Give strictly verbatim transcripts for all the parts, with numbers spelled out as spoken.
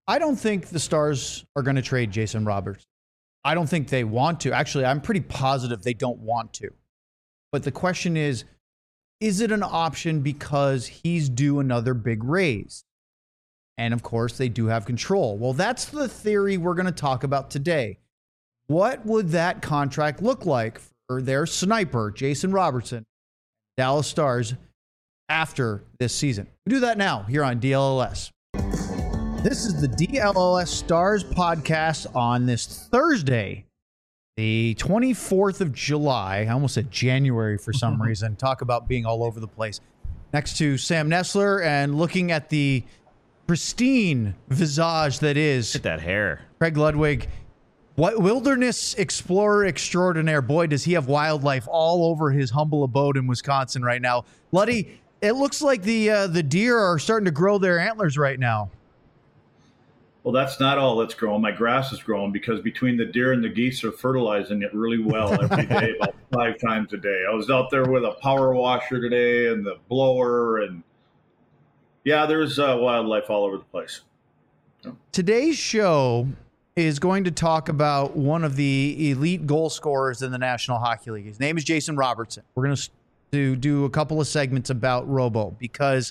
I don't think the Stars are going to trade Jason Robertson. I don't think they want to. Actually, I'm pretty positive they don't want to. But the question is, is it an option because he's due another big raise? And of course, they do have control. Well, that's the theory we're going to talk about today. What would that contract look like for their sniper, Jason Robertson, Dallas Stars, after this season? We do that now here on D L L S. This is the D L L S Stars podcast on this Thursday, the twenty-fourth of July. I almost said January for some reason. Talk about being all over the place. Next to Sam Nessler and looking at the pristine visage that is Look at that hair. Craig Ludwig. What wilderness explorer extraordinaire. Boy, does he have wildlife all over his humble abode in Wisconsin right now. Luddy, it looks like the uh, the deer are starting to grow their antlers right now. Well, that's not all that's growing. My grass is growing because between the deer and the geese are fertilizing it really well every day, about five times a day. I was out there with a power washer today and the blower, and yeah, there's uh, wildlife all over the place. So. Today's show is going to talk about one of the elite goal scorers in the National Hockey League. His name is Jason Robertson. We're going to do, do a couple of segments about Robo because...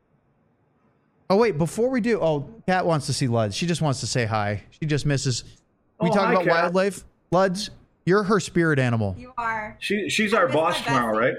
Oh, wait, before we do... Oh, Kat wants to see Luds. She just wants to say hi. She just misses... We oh, talk hi, about Kat. wildlife. Luds, you're her spirit animal. You are. She She's our boss tomorrow, right?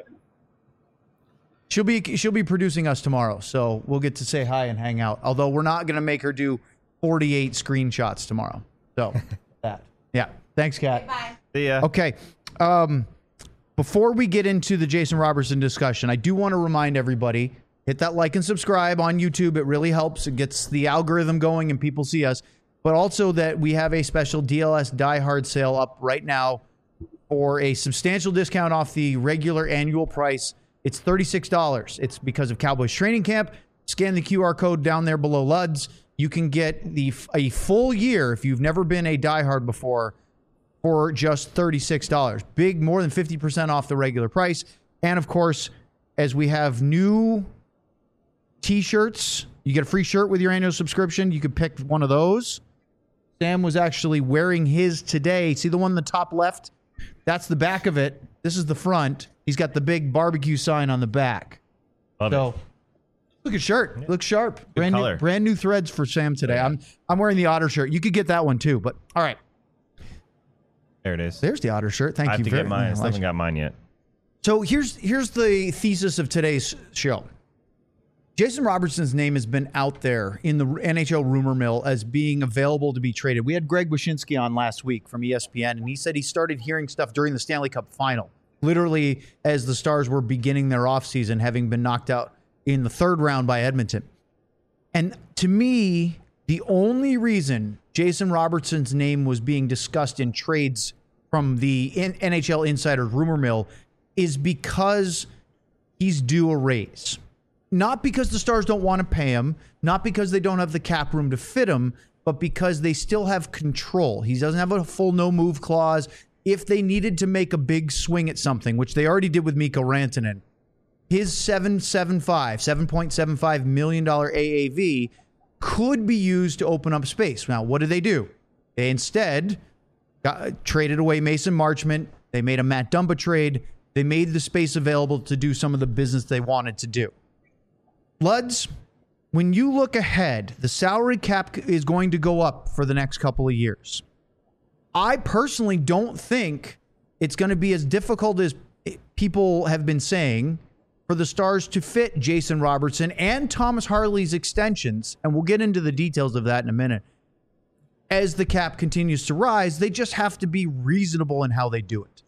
She'll be she'll be producing us tomorrow, so we'll get to say hi and hang out. Although we're not going to make her do forty-eight screenshots tomorrow. So, that. Yeah. Thanks, Kat. Bye. See ya. Okay. Um, before we get into the Jason Robertson discussion, I do want to remind everybody, hit that like and subscribe on YouTube. It really helps. It gets the algorithm going and people see us. But also that we have a special D L S Die Hard sale up right now for a substantial discount off the regular annual price. It's thirty-six dollars. It's because of Cowboys Training Camp. Scan the Q R code down there below Luds. You can get the a full year if you've never been a Die Hard before for just thirty-six dollars. Big, more than fifty percent off the regular price. And of course, as we have new t-shirts, you get a free shirt with your annual subscription. You could pick one of those. Sam was actually wearing his today. See the one in the top left? That's the back of it. This is the front. He's got the big barbecue sign on the back. Love so, it. look at shirt. Looks sharp. Brand color. new, brand new threads for Sam today. Yeah. I'm I'm wearing the Otter shirt. You could get that one too. But all right, There it is. there's the Otter shirt. Thank I have you to very get mine. I much. still haven't got mine yet. So here's here's the thesis of today's show. Jason Robertson's name has been out there in the N H L rumor mill as being available to be traded. We had Greg Wyshynski on last week from E S P N, and he said he started hearing stuff during the Stanley Cup final, literally as the Stars were beginning their offseason, having been knocked out in the third round by Edmonton. And to me, the only reason Jason Robertson's name was being discussed in trades from the N H L Insider rumor mill is because he's due a raise. Not because the Stars don't want to pay him, not because they don't have the cap room to fit him, but because they still have control. He doesn't have a full no-move clause. If they needed to make a big swing at something, which they already did with Mikko Rantanen, his seven point seven five, seven point seven five million dollars A A V could be used to open up space. Now, what did they do? They instead got, traded away Mason Marchment. They made a Matt Dumba trade. They made the space available to do some of the business they wanted to do. Luds, when you look ahead, the salary cap is going to go up for the next couple of years. I personally don't think it's going to be as difficult as people have been saying for the Stars to fit Jason Robertson and Thomas Harley's extensions, and we'll get into the details of that in a minute. As the cap continues to rise, they just have to be reasonable in how they do it.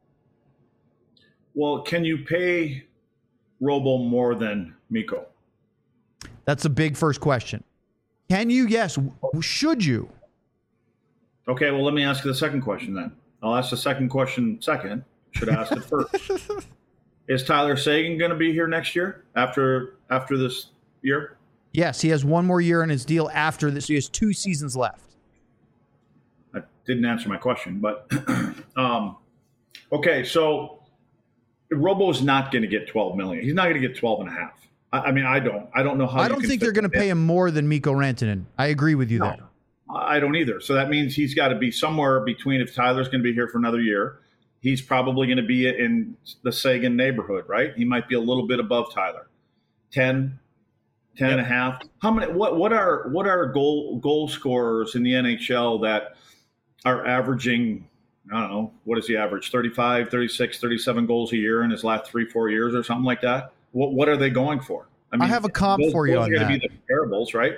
Well, can you pay Robo more than Mikko? That's a big first question. Can you? Yes. Should you? Okay, well, let me ask you the second question then. I'll ask the second question second. Should I ask it first? Is Tyler Seguin going to be here next year after after this year? Yes, he has one more year in his deal after this. He has two seasons left. That didn't answer my question, but um, okay, so Robo is not going to get twelve million dollars. He's not going to get twelve and a half. I, I mean, I don't. I don't know how. I don't think they're going to pay him more than Mikko Rantanen. I agree with you no, there. I don't either. So that means he's got to be somewhere between. If Tyler's going to be here for another year, he's probably going to be in the Sagan neighborhood, right? He might be a little bit above Tyler. ten, ten yep. and a half. How many? What? What are what are goal goal scorers in the N H L that are averaging? I don't know. What is the average? thirty-five, thirty-six, thirty-seven goals a year in his last three, four years or something like that. What What are they going for? I, mean, I have a comp those, for you those on are that. going to be the comparables, right?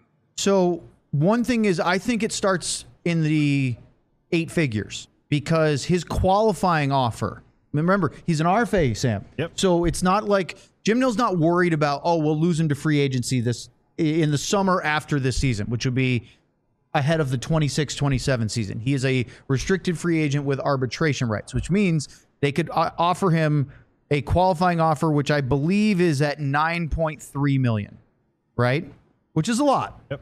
So one thing is, I think it starts in the eight figures because his qualifying offer. Remember, he's an R F A, Sam. Yep. So it's not like Jim Nill's not worried about, oh, we'll lose him to free agency this in the summer after this season, which would be ahead of the twenty-six twenty-seven season. He is a restricted free agent with arbitration rights, which means they could uh, offer him a qualifying offer, which I believe is at nine point three million dollars, right? Which is a lot. Yep.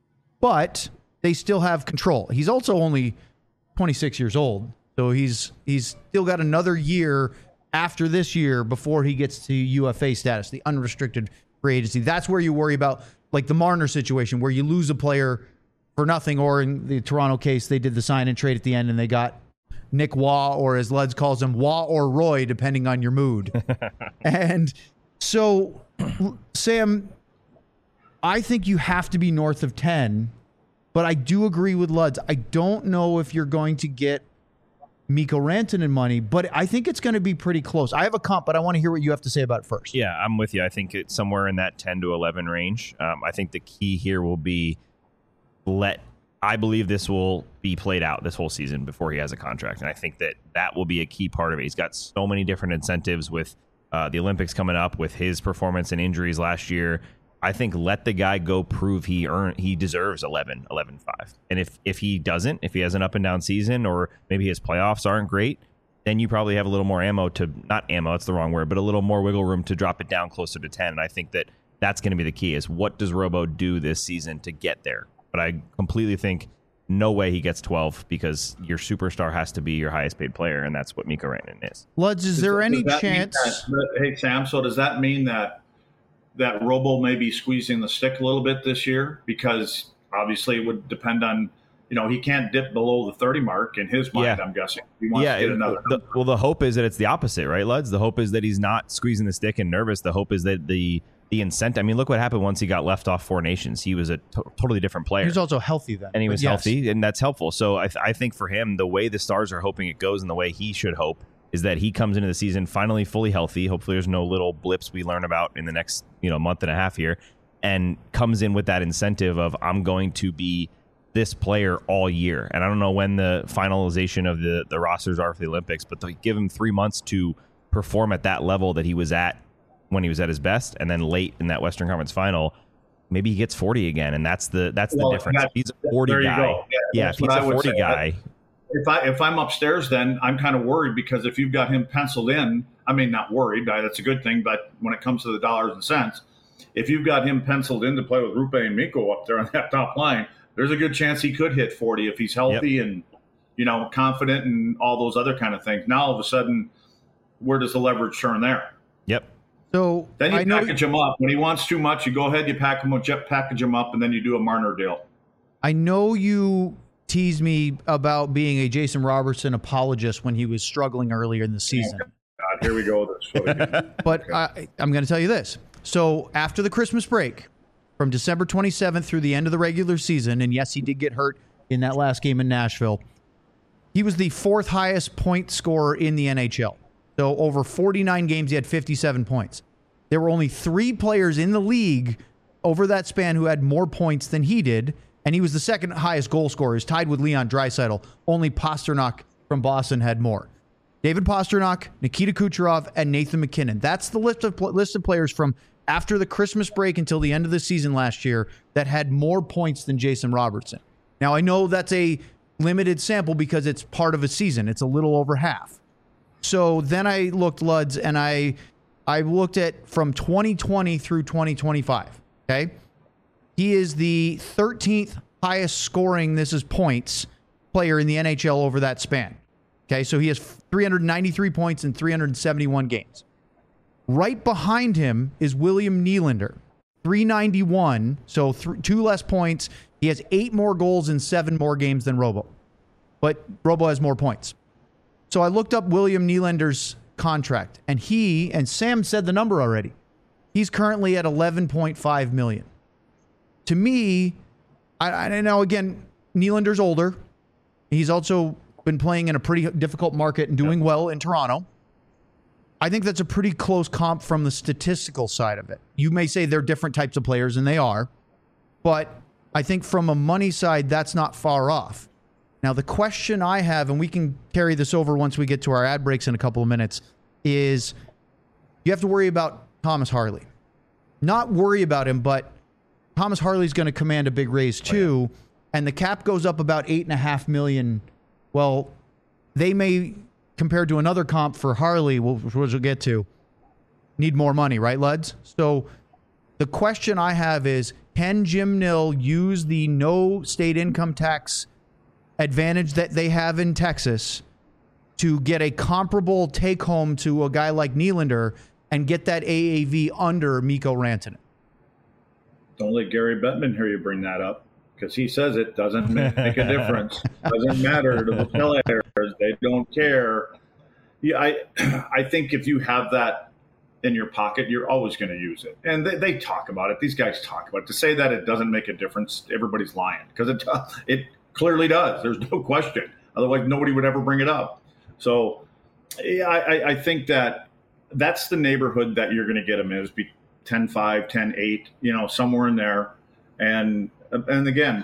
But they still have control. He's also only twenty-six years old, so he's he's still got another year after this year before he gets to U F A status, the unrestricted free agency. That's where you worry about, like the Marner situation, where you lose a player for nothing, or in the Toronto case, they did the sign and trade at the end and they got Nick Waugh, or as Luds calls him, Waugh or Roy, depending on your mood. And so, Sam, I think you have to be north of ten, but I do agree with Luds. I don't know if you're going to get Mikko Rantanen money, but I think it's going to be pretty close. I have a comp, but I want to hear what you have to say about it first. Yeah, I'm with you. I think it's somewhere in that ten to eleven range. Um, I think the key here will be let I believe this will be played out this whole season before he has a contract. And I think that that will be a key part of it. He's got so many different incentives with uh, the Olympics coming up, with his performance and injuries last year. I think let the guy go prove he earned, he deserves eleven, eleven five. And if, if he doesn't, if he has an up and down season, or maybe his playoffs aren't great, then you probably have a little more ammo to, not ammo, that's the wrong word, but a little more wiggle room to drop it down closer to ten. And I think that that's going to be the key, is what does Robo do this season to get there? But I completely think no way he gets twelve, because your superstar has to be your highest paid player, and that's what Mikko Rantanen is. Luds, is there any chance? That, hey, Sam, so does that mean that that Robo may be squeezing the stick a little bit this year? Because obviously it would depend on, you know, he can't dip below the thirty mark in his mind, yeah. I'm guessing. He wants yeah, to get another. The, well, the hope is that it's the opposite, right, Luds? The hope is that he's not squeezing the stick and nervous. The hope is that the the incentive. I mean, look what happened once he got left off Four Nations. He was a to- totally different player. He was also healthy then. And he was yes. healthy, and that's helpful. So I, th- I think for him, the way the Stars are hoping it goes and the way he should hope is that he comes into the season finally fully healthy. Hopefully there's no little blips we learn about in the next, you know, month and a half here, and comes in with that incentive of, I'm going to be this player all year. And I don't know when the finalization of the, the rosters are for the Olympics, but they give him three months to perform at that level that he was at when he was at his best, and then late in that Western Conference final, maybe he gets forty again, and that's the that's well, the difference. That, he's a forty guy. Yeah, yeah if he's a forty guy. If I if I'm upstairs, then I'm kind of worried, because if you've got him penciled in, I mean, not worried, that's a good thing, but when it comes to the dollars and cents, if you've got him penciled in to play with Rupe and Mikko up there on that top line, there's a good chance he could hit forty if he's healthy yep. and, you know, confident and all those other kind of things. Now all of a sudden, where does the leverage turn there? Yep. So then you I know package him up. When he wants too much, you go ahead, you pack him, package him up, and then you do a Marner deal. I know you teased me about being a Jason Robertson apologist when he was struggling earlier in the season. Oh, God, here we go. But okay. I, I'm going to tell you this. So after the Christmas break, from December twenty-seventh through the end of the regular season, and yes, he did get hurt in that last game in Nashville, he was the fourth highest point scorer in the N H L. So over forty-nine games, he had fifty-seven points. There were only three players in the league over that span who had more points than he did, and he was the second highest goal scorer. He's tied with Leon Draisaitl. Only Pasternak from Boston had more. David Pasternak, Nikita Kucherov, and Nathan MacKinnon. That's the list of list of players from after the Christmas break until the end of the season last year that had more points than Jason Robertson. Now, I know that's a limited sample because it's part of a season. It's a little over half. So then I looked, Luds, and I I looked at from twenty twenty through twenty twenty-five, okay? He is the thirteenth highest scoring, this is points, player in the N H L over that span. Okay, so he has three hundred ninety-three points in three hundred seventy-one games. Right behind him is William Nylander, three ninety-one, so th- two less points. He has eight more goals in seven more games than Robo, but Robo has more points. So I looked up William Nylander's contract, and he, and Sam said the number already, he's currently at eleven point five million dollars. To me, I, I know, again, Nylander's older. He's also been playing in a pretty difficult market and doing well in Toronto. I think that's a pretty close comp from the statistical side of it. You may say they're different types of players, and they are, but I think from a money side, that's not far off. Now, the question I have, and we can carry this over once we get to our ad breaks in a couple of minutes, is you have to worry about Thomas Harley. Not worry about him, but Thomas Harley's going to command a big raise too, oh, yeah. and the cap goes up about eight and a half million. Well, they may, compared to another comp for Harley, which we'll get to, need more money, right, Luds? So the question I have is, can Jim Nill use the no state income tax advantage that they have in Texas to get a comparable take home to a guy like Nylander and get that A A V under Mikko Rantanen? Don't let Gary Bettman hear you bring that up, because he says it doesn't make a difference. Doesn't matter to the players. They don't care. Yeah, I I think if you have that in your pocket, you're always going to use it. And they, they talk about it. These guys talk about it. To say that it doesn't make a difference, everybody's lying, because it it clearly does. There's no question. Otherwise, nobody would ever bring it up. So yeah, I, I think that that's the neighborhood that you're going to get them in, is be ten five, ten eight, you know, somewhere in there. And and again,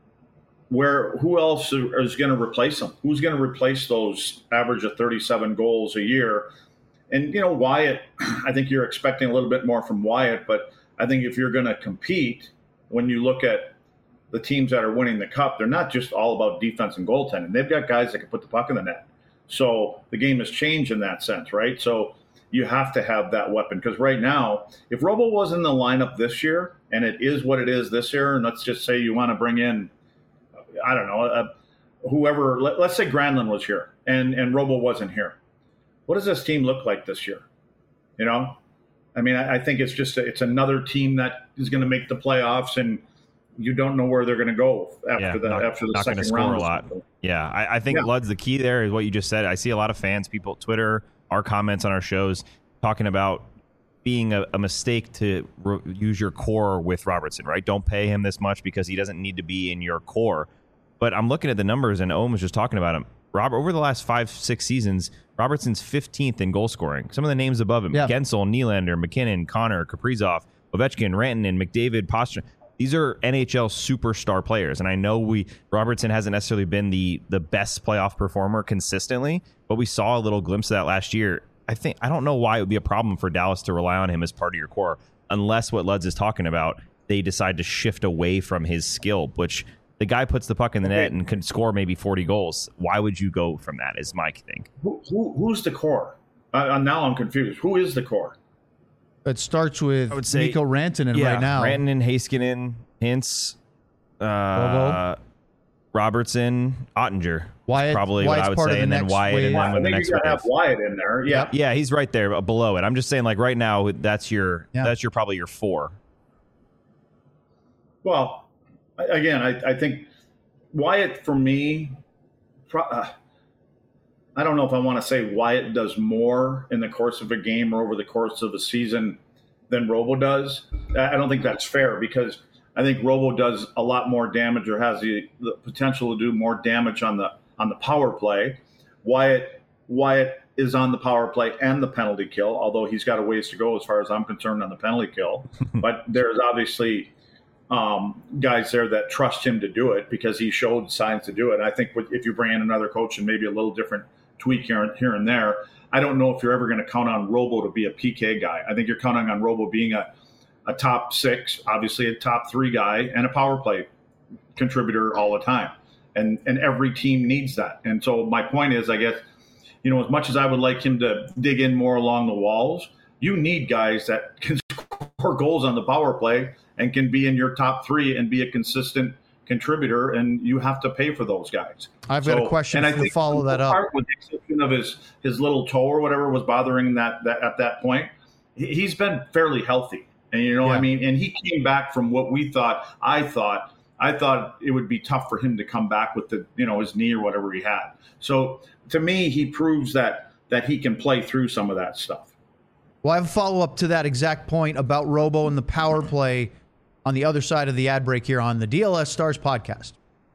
where who else is going to replace them? Who's going to replace those average of thirty-seven goals a year? And, you know, Wyatt, I think you're expecting a little bit more from Wyatt, but I think if you're going to compete, when you look at the teams that are winning the cup, they're not just all about defense and goaltending. They've got guys that can put the puck in the net. So the game has changed in that sense, right? So you have to have that weapon, because right now, if Robo was in the lineup this year, and it is what it is this year, and let's just say you want to bring in, I don't know, uh, whoever, let, let's say Granlund was here and, and Robo wasn't here. What does this team look like this year? You know, I mean, I, I think it's just, a, it's another team that is going to make the playoffs, and you don't know where they're going to go after yeah, the not, after the not second score round. A lot. Yeah, I, I think yeah. Lud's the key there is what you just said. I see a lot of fans, people, Twitter, our comments on our shows talking about being a, a mistake to re- use your core with Robertson, right? Don't pay him this much because he doesn't need to be in your core. But I'm looking at the numbers, and Owen was just talking about him. Robert, over the last five, six seasons, Robertson's fifteenth in goal scoring. Some of the names above him, yeah. Gensel, Nylander, McKinnon, Connor, Kaprizov, Ovechkin, Rantanen, McDavid, Pastrnak. These are N H L superstar players. And I know we Robertson hasn't necessarily been the the best playoff performer consistently, but we saw a little glimpse of that last year. I think I don't know why it would be a problem for Dallas to rely on him as part of your core, unless what Luds is talking about, they decide to shift away from his skill, which the guy puts the puck in the net and can score maybe forty goals. Why would you go from that, is my thing. Who, who, who's the core? Uh, now I'm confused. Who is the core? It starts with I would say, Mikko Rantanen yeah, right now. Rantanen, Heiskanen, Hintz, uh, Robertson, Ottinger. Wyatt, probably Wyatt's what I would part say, of the and then next Wyatt, wave. and then I with the think next you gotta wave. have Wyatt in there. Yeah, yeah, he's right there below it. I'm just saying, like right now, that's your yeah. that's your probably your four. Well, again, I, I think Wyatt for me. Uh, I don't know if I want to say Wyatt does more in the course of a game or over the course of a season than Robo does. I don't think that's fair, because I think Robo does a lot more damage, or has the, the potential to do more damage on the on the power play. Wyatt Wyatt is on the power play and the penalty kill, although he's got a ways to go as far as I'm concerned on the penalty kill. But there's obviously um, guys there that trust him to do it because he showed signs to do it. I think if you bring in another coach and maybe a little different tweak here, here and there, I don't know if you're ever going to count on Robo to be a P K guy. I think you're counting on Robo being a, a top six, obviously a top three guy, and a power play contributor all the time. And and every team needs that. And so my point is, I guess, you know, as much as I would like him to dig in more along the walls, you need guys that can score goals on the power play and can be in your top three and be a consistent contributor, and you have to pay for those guys. I've so, got a question and I to think follow that up. With the exception of his, his little toe or whatever was bothering that, that at that point, he's been fairly healthy. And, you know, yeah. I mean, and he came back from what we thought, I thought, I thought it would be tough for him to come back with the, you know, his knee or whatever he had. So to me, he proves that, that he can play through some of that stuff. Well, I have a follow-up to that exact point about Robo and the power play on the other side of the ad break here on the D L S Stars podcast.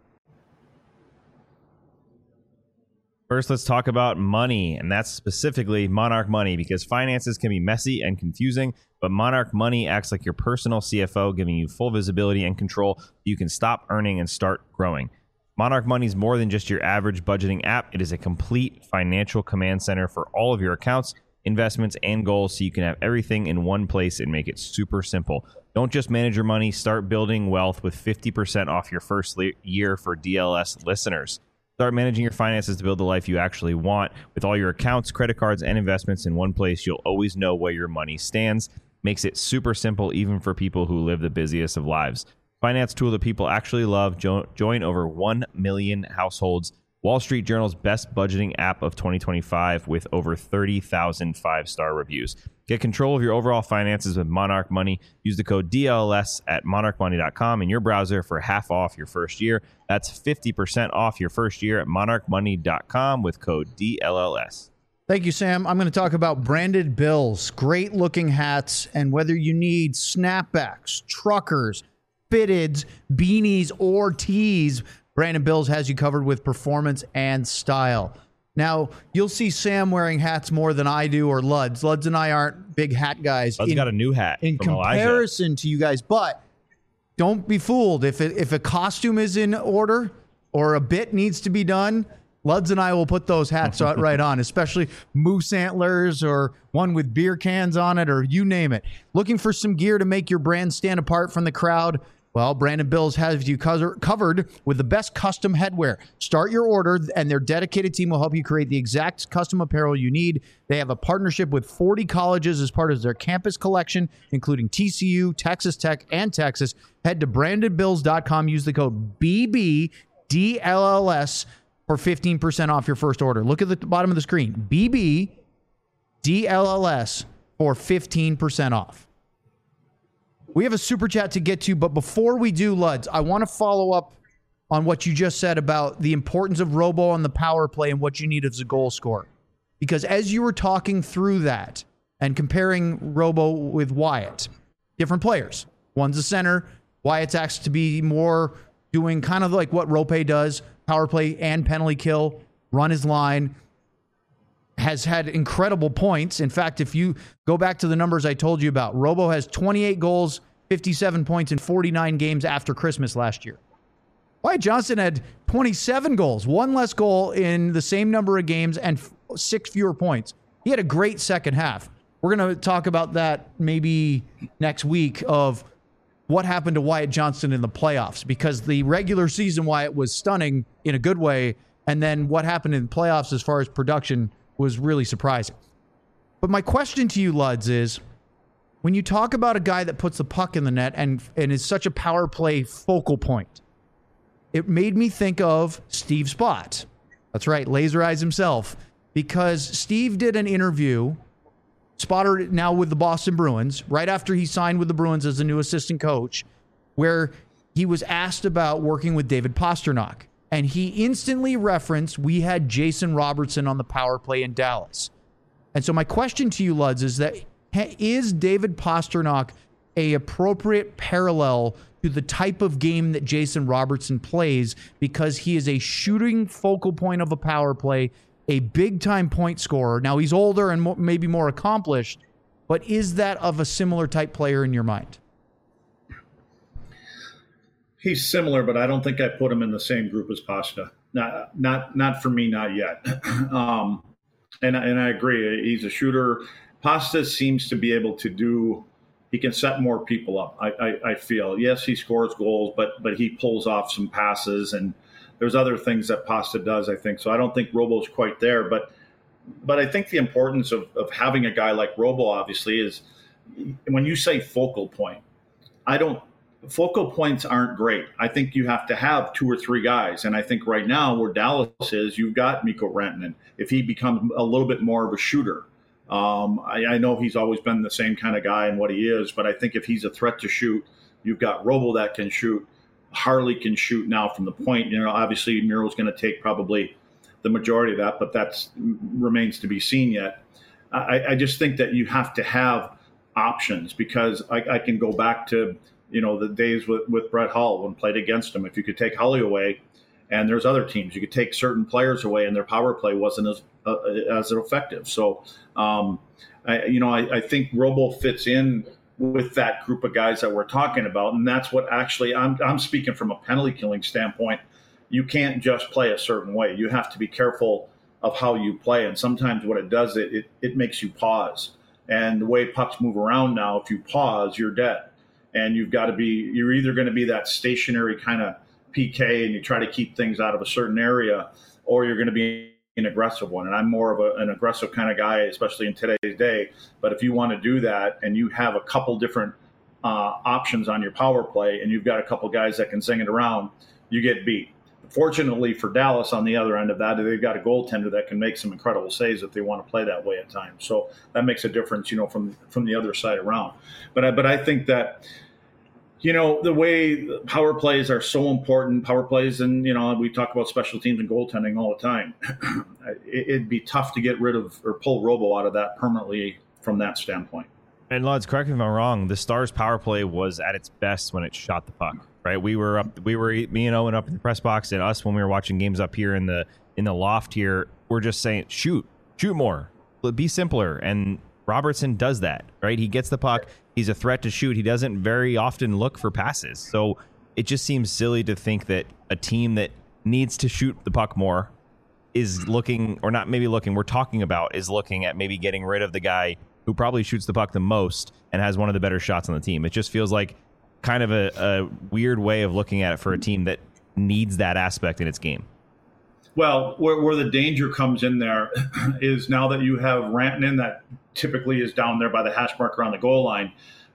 First, let's talk about money, and that's specifically Monarch Money, because finances can be messy and confusing, but Monarch Money acts like your personal C F O, giving you full visibility and control so you can stop earning and start growing. Monarch Money is more than just your average budgeting app. It is a complete financial command center for all of your accounts, investments, and goals, so you can have everything in one place and make it super simple. Don't just manage your money, start building wealth with fifty percent off your first le- year for D L S listeners. Start managing your finances to build the life you actually want. With all your accounts, credit cards, and investments in one place, you'll always know where your money stands. Makes it super simple, even for people who live the busiest of lives. Finance tool that people actually love. Jo- join over one million households. Wall Street Journal's best budgeting app of twenty twenty-five with over thirty thousand five-star reviews. Get control of your overall finances with Monarch Money. Use the code D L S at monarch money dot com in your browser for half off your first year. That's fifty percent off your first year at monarch money dot com with code D L L S. Thank you, Sam. I'm going to talk about branded bills, great looking hats, and whether you need snapbacks, truckers, fitteds, beanies, or tees, Branded Bills has you covered with performance and style. Now, you'll see Sam wearing hats more than I do, or Luds. Luds and I aren't big hat guys. Lud's in, got a new hat in from comparison Elijah. to you guys. But don't be fooled. If it, if a costume is in order or a bit needs to be done, Luds and I will put those hats right on, especially moose antlers or one with beer cans on it, or you name it. Looking for some gear to make your brand stand apart from the crowd? Well, Branded Bills has you covered with the best custom headwear. Start your order, and their dedicated team will help you create the exact custom apparel you need. They have a partnership with forty colleges as part of their campus collection, including T C U, Texas Tech, and Texas. Head to branded bills dot com. Use the code B B D L L S for fifteen percent off your first order. Look at the bottom of the screen. B B D L L S for fifteen percent off. We have a super chat to get to, but before we do, Luds, I want to follow up on what you just said about the importance of Robo on the power play and what you need as a goal scorer. Because as you were talking through that and comparing Robo with Wyatt, different players. One's a center. Wyatt's asked to be more doing kind of like what Rope does, power play and penalty kill, run his line. Has had incredible points. In fact, if you go back to the numbers I told you about, Robo has twenty-eight goals, fifty-seven points in forty-nine games after Christmas last year. Wyatt Johnston had twenty-seven goals, one less goal in the same number of games, and f- six fewer points. He had a great second half. We're going to talk about that maybe next week of what happened to Wyatt Johnston in the playoffs, because the regular season Wyatt was stunning in a good way, and then what happened in playoffs as far as production was really surprising. But my question to you, Luds, is when you talk about a guy that puts the puck in the net and, and is such a power play focal point, it made me think of Steve Spott. That's right, Laser Eyes himself, because Steve did an interview, Spotter now with the Boston Bruins, right after he signed with the Bruins as the new assistant coach, where he was asked about working with David Pastrnak. And he instantly referenced, we had Jason Robertson on the power play in Dallas. And so my question to you, Luds, is that is David Pastrnak a appropriate parallel to the type of game that Jason Robertson plays, because he is a shooting focal point of a power play, a big-time point scorer? Now, he's older and mo- maybe more accomplished, but is that of a similar type player in your mind? He's similar, but I don't think I put him in the same group as Pasta. Not, not, not for me, not yet. um, and and I agree. He's a shooter. Pasta seems to be able to do. He can set more people up. I, I, I feel. Yes, he scores goals, but but he pulls off some passes, and there's other things that Pasta does, I think. So I don't think Robo's quite there, but but I think the importance of of having a guy like Robo, obviously, is when you say focal point. I don't. Focal points aren't great. I think you have to have two or three guys. And I think right now where Dallas is, you've got Mikko Rantanen. If he becomes a little bit more of a shooter, Um, I, I know he's always been the same kind of guy and what he is, but I think if he's a threat to shoot, you've got Robo that can shoot. Harley can shoot now from the point. You know, obviously Miro's going to take probably the majority of that, but that remains to be seen yet. I, I just think that you have to have options, because I, I can go back to, you know, the days with, with Brett Hull when played against him. If you could take Hully away, and there's other teams, you could take certain players away and their power play wasn't as uh, as effective. So, um, I, you know, I, I think Robo fits in with that group of guys that we're talking about. And that's what actually I'm, I'm speaking from a penalty killing standpoint. You can't just play a certain way. You have to be careful of how you play. And sometimes what it does, it, it, it makes you pause. And the way pucks move around now, if you pause, you're dead. And you've got to be, you're either going to be that stationary kind of P K and you try to keep things out of a certain area, or you're going to be an aggressive one. And I'm more of a, an aggressive kind of guy, especially in today's day. But if you want to do that and you have a couple different uh, options on your power play and you've got a couple guys that can zing it around, you get beat. Fortunately for Dallas, on the other end of that, they've got a goaltender that can make some incredible saves if they want to play that way at times. So that makes a difference, you know, from from the other side around. But I, but I think that, you know, the way power plays are so important, power plays, and, you know, we talk about special teams and goaltending all the time. It'd be tough to get rid of or pull Robo out of that permanently from that standpoint. And Luds, correct me if I'm wrong, the Stars power play was at its best when it shot the puck, right? We were up, we were, me and Owen up in the press box, and us when we were watching games up here in the in the loft here, we're just saying, shoot, shoot more, be simpler. And Robertson does that, right? He gets the puck. He's a threat to shoot. He doesn't very often look for passes. So it just seems silly to think that a team that needs to shoot the puck more is looking, or not maybe looking, we're talking about is looking at maybe getting rid of the guy who probably shoots the puck the most and has one of the better shots on the team. It just feels like kind of a, a weird way of looking at it for a team that needs that aspect in its game. Well, where, where the danger comes in there is now that you have Rantanen that typically is down there by the hash marker on the goal line.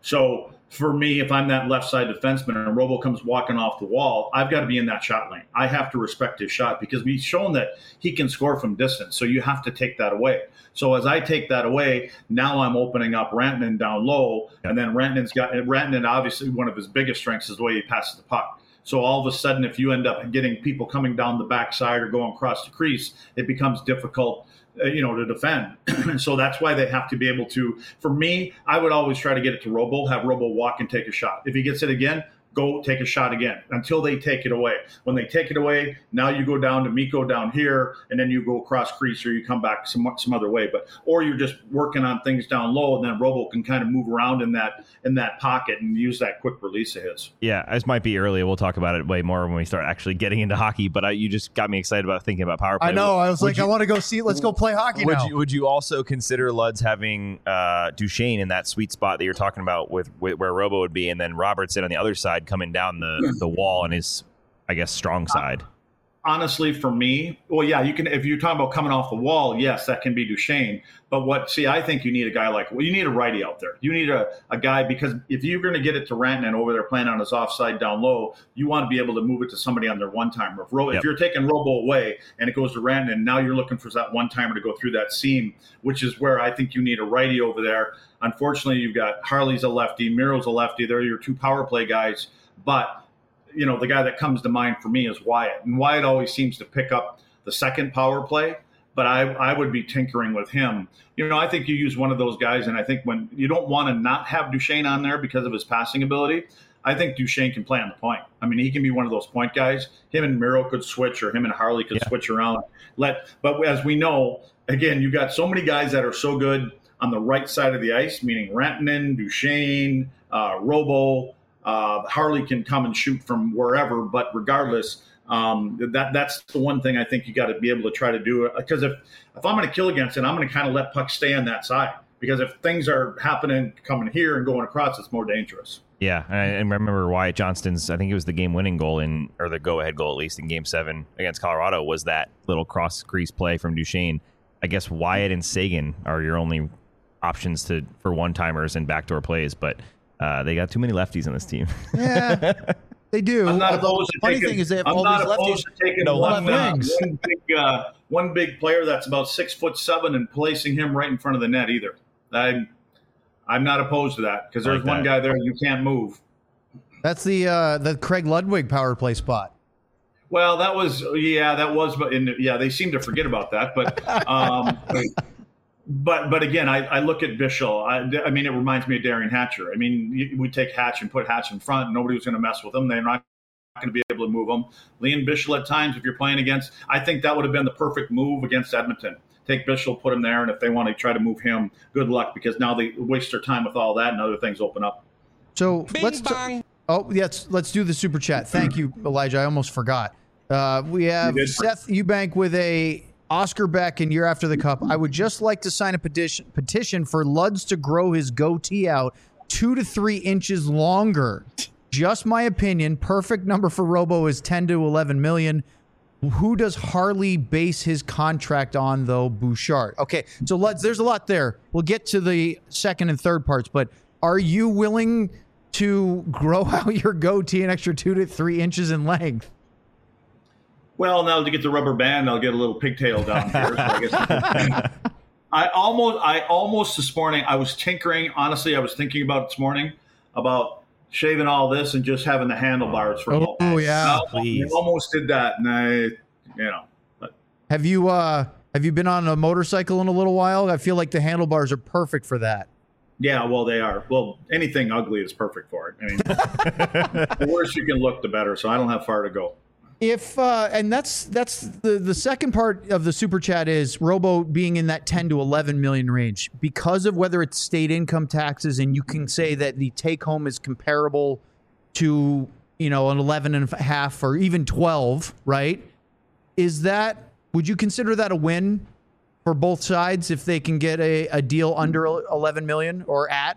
So for me, if I'm that left side defenseman and Robo comes walking off the wall, I've got to be in that shot lane. I have to respect his shot because we've shown that he can score from distance. So you have to take that away. So as I take that away, now I'm opening up Rantanen down low. And then Rantanen's got Rantanen, obviously one of his biggest strengths is the way he passes the puck. So all of a sudden, if you end up getting people coming down the backside or going across the crease, it becomes difficult, uh, you know, to defend. So that's why they have to be able to. For me, I would always try to get it to Robo, have Robo walk and take a shot. If he gets it again, go take a shot again until they take it away. When they take it away, now you go down to Mikko down here, and then you go across crease or you come back some some other way. But or you're just working on things down low, and then Robo can kind of move around in that in that pocket and use that quick release of his. Yeah, this might be early. We'll talk about it way more when we start actually getting into hockey. But I, you just got me excited about thinking about power play. I know. I was would like, you, I want to go see. Let's go play hockey would now. You, would you also consider Luds having uh, Duchesne in that sweet spot that you're talking about with, with where Robo would be, and then Robertson on the other side coming down the the wall on his, I guess, strong side? Honestly, for me, well, yeah, you can. If you're talking about coming off the wall, yes, that can be Duchesne. But what? See, I think you need a guy like. Well, you need a righty out there. You need a, a guy because if you're going to get it to Rantanen over there playing on his offside down low, you want to be able to move it to somebody on their one timer. If, Ro- yep. if you're taking Robo away and it goes to Rantanen, now you're looking for that one timer to go through that seam, which is where I think you need a righty over there. Unfortunately, you've got Harley's a lefty, Miro's a lefty. They're your two power play guys, but. You know, the guy that comes to mind for me is Wyatt. And Wyatt always seems to pick up the second power play, but I, I would be tinkering with him. You know, I think you use one of those guys, and I think when you don't want to not have Duchesne on there because of his passing ability, I think Duchesne can play on the point. I mean, he can be one of those point guys. Him and Miro could switch, or him and Harley could yeah. switch around. Let, But as we know, again, you've got so many guys that are so good on the right side of the ice, meaning Rantanen, Duchesne, uh, Robo, Uh, Harley can come and shoot from wherever, but regardless, um, that that's the one thing I think you got to be able to try to do. Because if, if I'm going to kill against it, I'm going to kind of let pucks stay on that side. Because if things are happening, coming here and going across, it's more dangerous. Yeah, and I remember Wyatt Johnston's, I think it was the game-winning goal, in, or the go-ahead goal at least in Game seven against Colorado, was that little cross-crease play from Duchesne. I guess Wyatt and Sagan are your only options to for one-timers and backdoor plays, but... Uh, they got too many lefties on this team. Yeah. They do. I'm not Although opposed the to funny taking, thing is they have I'm all not these opposed lefties. to taking No one, left uh, wings. one big uh, one big player that's about six foot seven and placing him right in front of the net either. I'm I'm not opposed to that because I there's like one that. guy there you can't move. That's the uh, the Craig Ludwig power play spot. Well, that was yeah, that was, but in, yeah, they seem to forget about that. But um, but but again, I, I look at Bichel. I, I mean, it reminds me of Darian Hatcher. I mean, you, we take Hatch and put Hatch in front, and nobody was going to mess with him. They're not going to be able to move him. Liam Bichel at times, if you're playing against, I think that would have been the perfect move against Edmonton. Take Bichel, put him there, and if they want to try to move him, good luck because now they waste their time with all that, and other things open up. So Bing let's. bong. T- oh yes, let's do the super chat. Thank you, Elijah. I almost forgot. Uh, we have You did. Seth Eubank with a Oscar Beck and Year After the Cup. I would just like to sign a petition petition for Luds to grow his goatee out two to three inches longer. Just my opinion. Perfect number for Robo is ten to eleven million. Who does Harley base his contract on, though? Bouchard. Okay, so Luds, there's a lot there. We'll get to the second and third parts, but are you willing to grow out your goatee an extra two to three inches in length? Well, now to get the rubber band, I'll get a little pigtail down here. So I guess I almost, I almost this morning, I was tinkering. Honestly, I was thinking about this morning about shaving all this and just having the handlebars for a Oh, moment. yeah. I Please. almost did that, and I, you know, but Have you uh have you been on a motorcycle in a little while? I feel like the handlebars are perfect for that. yeah, well, they are. Well, anything ugly is perfect for it. I mean, the worse you can look, the better. So I don't have far to go. If uh, and that's that's the the second part of the super chat is Robo being in that ten to eleven million range because of whether it's state income taxes, and you can say that the take home is comparable to, you know, an eleven and a half or even twelve, right? Is that, would you consider that a win for both sides if they can get a, a deal under eleven million or at?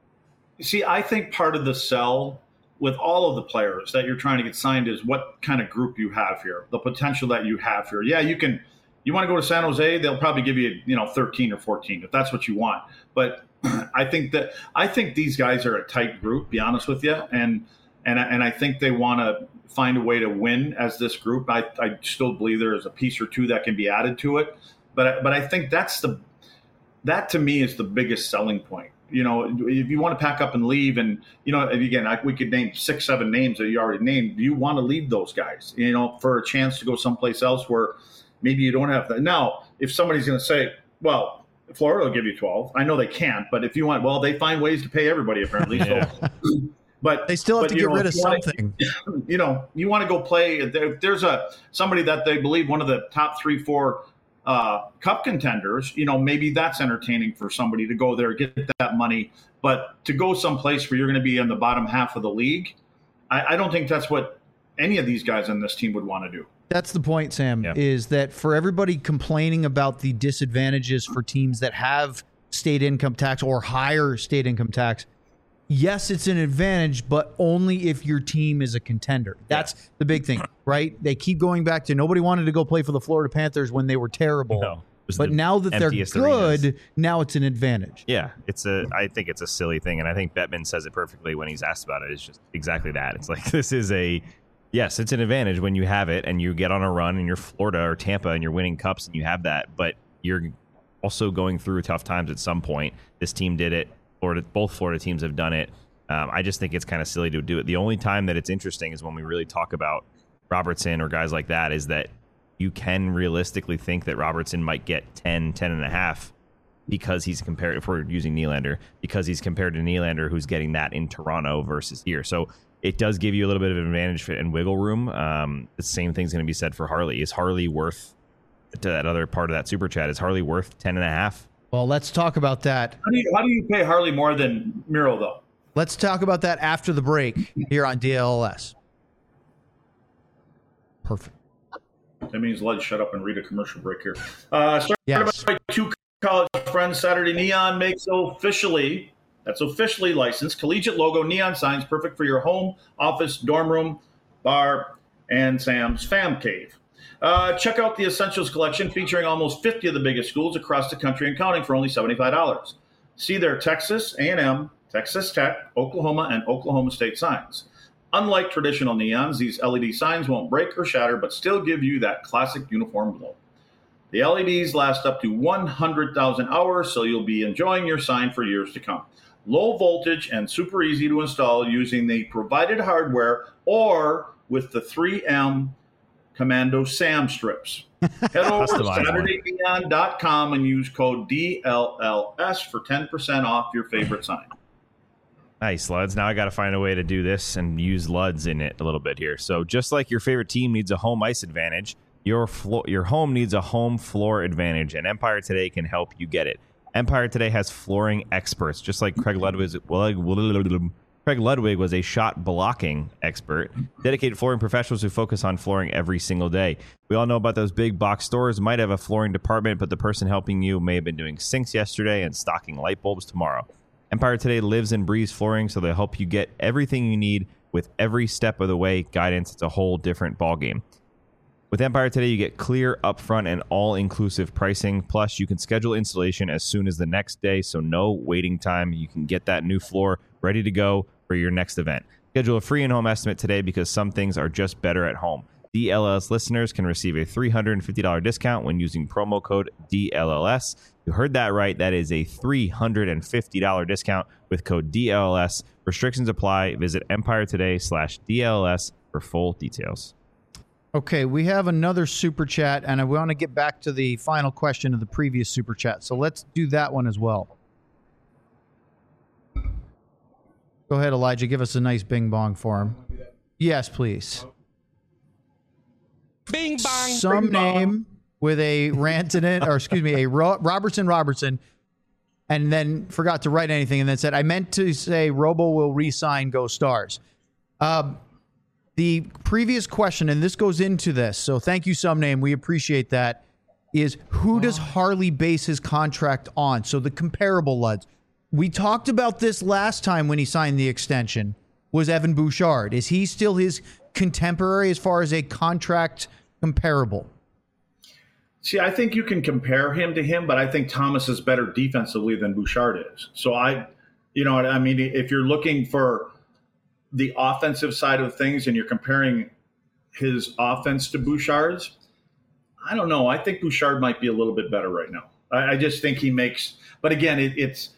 See, I think part of the sell with all of the players that you're trying to get signed is what kind of group you have here, the potential that you have here. Yeah, you can, you want to go to San Jose, they'll probably give you, you know, thirteen or fourteen if that's what you want. But I think that, I think these guys are a tight group, be honest with you. And, and, and I think they want to find a way to win as this group. I, I still believe there is a piece or two that can be added to it. But, but I think that's the, that to me is the biggest selling point. You know, if you want to pack up and leave, and, you know, again, I, we could name six, seven names that you already named. You want to leave those guys, you know, for a chance to go someplace else where maybe you don't have that. Now, if somebody's going to say, well, Florida will give you twelve. I know they can't, but if you want, well, they find ways to pay everybody apparently. Yeah. So, but They still have but, to you get know, rid of if you wanna- something. you know, you want to go play. If there's a somebody that they believe one of the top three, four uh, cup contenders, you know, maybe that's entertaining for somebody to go there, get that money. But to go someplace where you're going to be in the bottom half of the league, I, I don't think that's what any of these guys on this team would want to do. That's the point, Sam, Yeah. is that for everybody complaining about the disadvantages for teams that have state income tax or higher state income tax, yes, it's an advantage, but only if your team is a contender. That's the big thing, right? They keep going back to nobody wanted to go play for the Florida Panthers when they were terrible. No, it was but the now that they're emptiest good, arenas. now it's an advantage. Yeah, it's a. I think it's a silly thing, and I think Bettman says it perfectly when he's asked about it. It's just exactly that. It's like this is a, yes, it's an advantage when you have it and you get on a run and you're Florida or Tampa and you're winning cups and you have that, but you're also going through tough times at some point. This team did it. Florida, both Florida teams have done it. Um, I just think it's kind of silly to do it. The only time that it's interesting is when we really talk about Robertson or guys like that, is that you can realistically think that Robertson might get ten, ten and a half because he's compared, if we're using Nylander, because he's compared to Nylander, who's getting that in Toronto versus here. So it does give you a little bit of advantage and wiggle room. Um, the same thing's going to be said for Harley. Is Harley worth, to that other part of that super chat, is Harley worth ten and a half? Well, let's talk about that. How do you, how do you pay Harley more than Miro, though? Let's talk about that after the break here on D L S. Perfect. That means let's shut up and read a commercial break here. Uh, started Yes. by two college friends, Saturday Neon makes officially, that's officially licensed, collegiate logo neon signs, perfect for your home, office, dorm room, bar, and Sam's Fam Cave. Uh, check out the Essentials collection featuring almost fifty of the biggest schools across the country and counting for only seventy-five dollars. See their Texas A and M, Texas Tech, Oklahoma, and Oklahoma State signs. Unlike traditional neons, these L E D signs won't break or shatter, but still give you that classic uniform glow. The L E Ds last up to one hundred thousand hours, so you'll be enjoying your sign for years to come. Low voltage and super easy to install using the provided hardware or with the three M Commando SAM strips. Head over to Saturday Neon dot com and use code D L L S for ten percent off your favorite sign. Nice, Luds. Now I got to find a way to do this and use Luds in it a little bit here. So just like your favorite team needs a home ice advantage, your flo- your home needs a home floor advantage, and Empire Today can help you get it. Empire Today has flooring experts, just like Craig Ludwig. Craig Ludwig was a shot blocking expert, dedicated flooring professionals who focus on flooring every single day. We all know about those big box stores might have a flooring department, but the person helping you may have been doing sinks yesterday and stocking light bulbs tomorrow. Empire Today lives and breathes flooring, so they'll help you get everything you need with every step of the way guidance. It's a whole different ballgame. With Empire Today, you get clear, upfront, and all-inclusive pricing. Plus, you can schedule installation as soon as the next day, so no waiting time. You can get that new floor ready to go for your next event. Schedule a free in-home estimate today because some things are just better at home. D L L S listeners can receive a three hundred fifty dollars discount when using promo code D L L S. You heard that right. That is a three hundred fifty dollars discount with code D L L S. Restrictions apply. Visit Empire Today slash D L L S for full details. Okay, we have another super chat, and I want to get back to the final question of the previous super chat. So let's do that one as well. Go ahead, Elijah. Give us a nice bing bong for him. Yes, please. Bing bong. Some bing name bong. with a rant in it, or excuse me, a Ro- Robertson Robertson, and then forgot to write anything, and then said, I meant to say Robo will re-sign Go Stars. Uh, the previous question, and this goes into this, so thank you, Some Name. We appreciate that, is who does Harley base his contract on? So the comparable Luds. We talked about this last time when he signed the extension, was Evan Bouchard. Is he still his contemporary as far as a contract comparable? See, I think you can compare him to him, but I think Thomas is better defensively than Bouchard is. So I, you know, I mean, if you're looking for the offensive side of things and you're comparing his offense to Bouchard's, I don't know. I think Bouchard might be a little bit better right now. I, I just think he makes, but again, it, it's,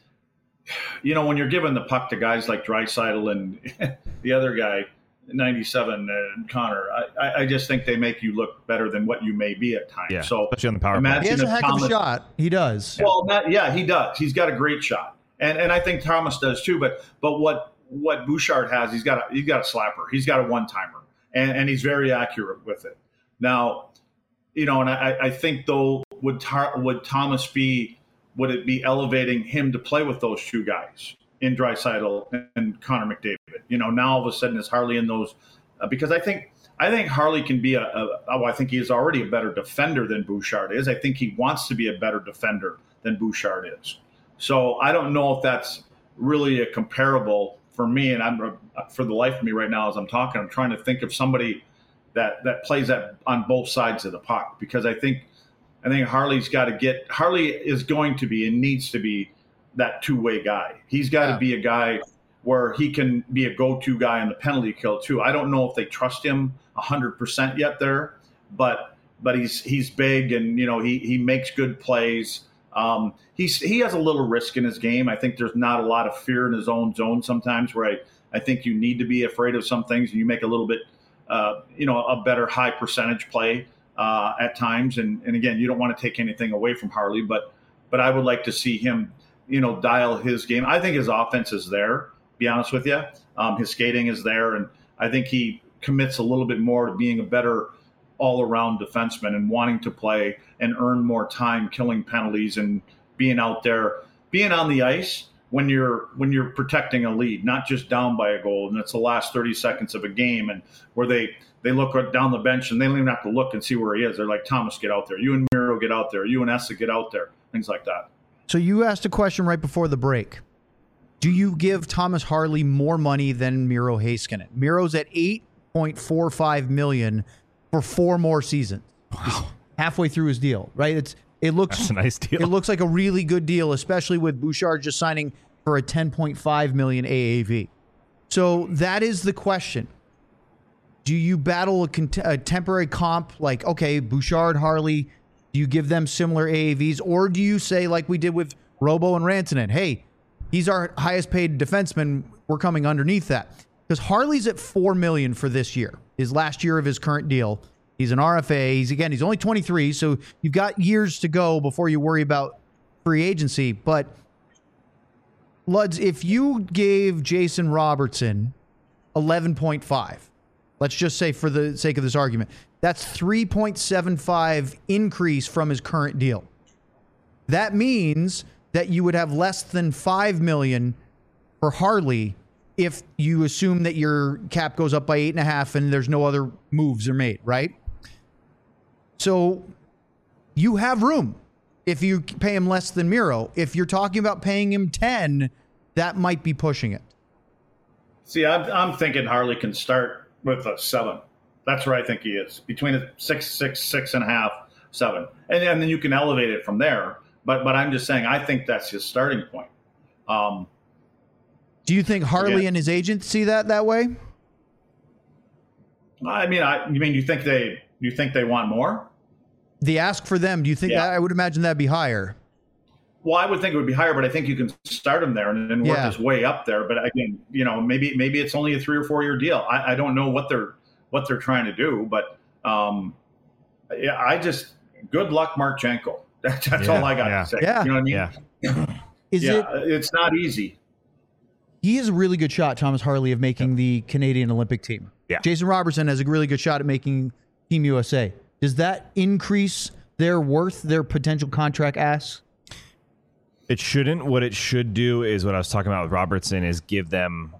you know, when you're giving the puck to guys like Draisaitl and the other guy, ninety-seven, and Connor, I, I just think they make you look better than what you may be at times. Yeah, so especially on the power play. imagine He has a if heck Thomas, of a shot. He does. Well, that, yeah, he does. He's got a great shot, and and I think Thomas does too. But but what what Bouchard has, he's got a he's got a slapper. He's got a one timer, and and he's very accurate with it. Now, you know, and I I think though would Tar, would Thomas be would it be elevating him to play with those two guys in Draisaitl and Connor McDavid? You know, now all of a sudden is Harley in those uh, because I think I think Harley can be a, a oh, I think he is already a better defender than Bouchard is. I think he wants to be a better defender than Bouchard is. So I don't know if that's really a comparable for me. And I'm for the life of me right now as I'm talking, I'm trying to think of somebody that that plays that on both sides of the puck, because I think. I think Harley's got to get – Harley is going to be and needs to be that two-way guy. He's got to yeah. be a guy where he can be a go-to guy in the penalty kill too. I don't know if they trust him one hundred percent yet there, but but he's he's big and, you know, he he makes good plays. Um, he's he has a little risk in his game. I think there's not a lot of fear in his own zone sometimes where I, I think you need to be afraid of some things and you make a little bit, uh, you know, a better high percentage play. Uh, at times, and, and again, you don't want to take anything away from Harley, but but I would like to see him, you know, dial his game. I think his offense is there, to be honest with you. Um, his skating is there, and I think he commits a little bit more to being a better all-around defenseman and wanting to play and earn more time killing penalties and being out there, being on the ice when you're when you're protecting a lead, not just down by a goal, and it's the last thirty seconds of a game, and where they – They look down the bench, and they don't even have to look and see where he is. They're like, Thomas, get out there. You and Miro, get out there. You and Essa, get out there. Things like that. So you asked a question right before the break. Do you give Thomas Harley more money than Miro Heiskanen? Miro's at eight point four five million dollars for four more seasons. Wow. He's halfway through his deal, right? It's it looks That's a nice deal. It looks like a really good deal, especially with Bouchard just signing for a ten point five million dollars A A V. So that is the question. Do you battle a, cont- a temporary comp like, okay, Bouchard, Harley, do you give them similar A A Vs? Or do you say, like we did with Robo and Rantanen, hey, he's our highest paid defenseman, we're coming underneath that? Because Harley's at four million dollars for this year, his last year of his current deal. He's an R F A. He's, again, he's only twenty-three, so you've got years to go before you worry about free agency. But, Luds, if you gave Jason Robertson eleven point five, let's just say for the sake of this argument, that's three point seven five increase from his current deal. That means that you would have less than five million dollars for Harley if you assume that your cap goes up by eight and a half and there's no other moves are made, right? So you have room if you pay him less than Miro. If you're talking about paying him ten, that might be pushing it. See, I'm, I'm thinking Harley can start with a seven. That's where I think he is, between a six, six, six and a half, seven, and, and then you can elevate it from there. But but I'm just saying, I think that's his starting point. Um, Do you think Harley yeah. and his agent see that that way? I mean, I you mean you think they you think they want more? The ask for them, do you think Yeah. that? I would imagine that'd be higher. Well, I would think it would be higher, but I think you can start him there and then work Yeah. his way up there. But again, you know, maybe maybe it's only a three or four year deal. I, I don't know what they're what they're trying to do, but um, yeah, I just good luck, Marchenko. That's, that's Yeah, all I got yeah. to say. Yeah. You know what I mean? Yeah. Is yeah, it? it's not easy. He has a really good shot, Thomas Harley, of making the Canadian Olympic team. Yeah. Jason Robertson has a really good shot at making Team U S A. Does that increase their worth, their potential contract asks? It shouldn't. What it should do is what I was talking about with Robertson is give them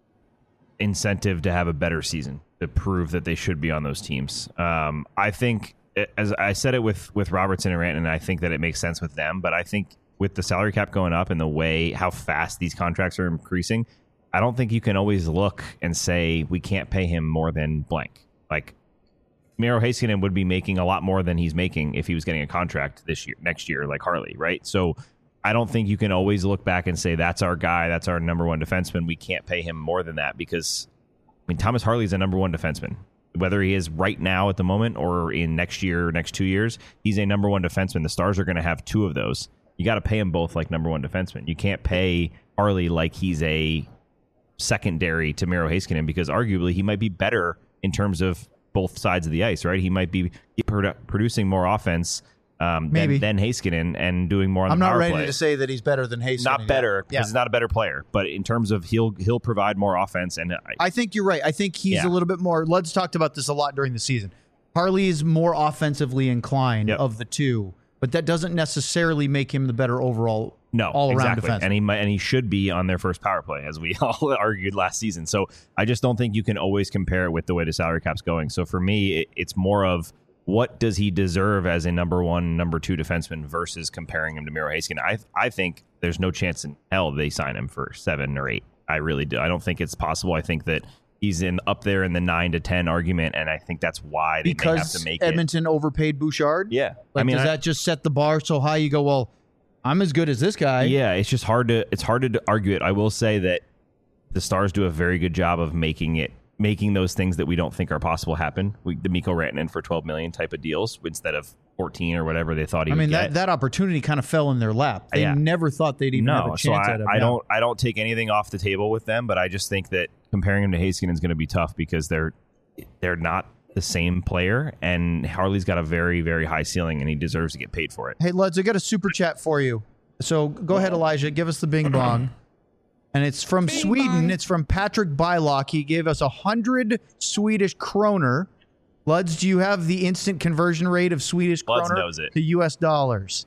incentive to have a better season, to prove that they should be on those teams. Um, I think, as I said it with, with Robertson and Rantanen, and I think that it makes sense with them, but I think with the salary cap going up and the way how fast these contracts are increasing, I don't think you can always look and say we can't pay him more than blank. Like Miro Heiskanen would be making a lot more than he's making if he was getting a contract this year, next year, like Harley, right? So I don't think you can always look back and say that's our guy, that's our number one defenseman. We can't pay him more than that because, I mean, Thomas Harley's a number one defenseman. Whether he is right now at the moment or in next year, next two years, he's a number one defenseman. The Stars are going to have two of those. You got to pay him both like number one defenseman. You can't pay Harley like he's a secondary to Miro Heiskanen because arguably he might be better in terms of both sides of the ice, right? He might be produ- producing more offense um, Maybe. than, than Heiskanen and doing more on I'm the not power ready play. to say that he's better than Hayes. Not better because Yeah. he's not a better player, but in terms of he'll he'll provide more offense. And I, I think you're right. I think he's Yeah. a little bit more. Luds talked about this a lot during the season. Harley is more offensively inclined Yep. of the two, but that doesn't necessarily make him the better overall No, all-around exactly. defenseman. And he might, and he should be on their first power play, as we all argued last season. So I just don't think you can always compare it with the way the salary cap's going. So for me, it, it's more of what does he deserve as a number one, number two defenseman versus comparing him to Miro Heiskanen. I I think there's no chance in hell they sign him for seven or eight. I really do. I don't think it's possible. I think that he's in up there in the nine to ten argument, and I think that's why they may have because to make Edmonton overpaid Bouchard. it. Yeah, Like, I mean, does I- that just set the bar so high? You go, well, I'm as good as this guy. Yeah, it's just hard to it's hard to argue it. I will say that the Stars do a very good job of making it making those things that we don't think are possible happen. We, the Mikko Rantanen for twelve million type of deals instead of fourteen or whatever they thought he I mean would that get. that opportunity kind of fell in their lap. They Yeah. never thought they'd even have a no, chance so I, at him. I Yeah. don't I don't take anything off the table with them, but I just think that comparing him to Heiskanen is going to be tough because they're they're not the same player, and Harley's got a very very high ceiling, and he deserves to get paid for it. Hey, Luds, I got a super chat for you. So go ahead, Elijah. Give us the bing bong. And it's from Sweden. It's from Patrick Bylock. He gave us a hundred Swedish kroner. Luds, do you have the instant conversion rate of Swedish Luds kroner knows it. to U S dollars?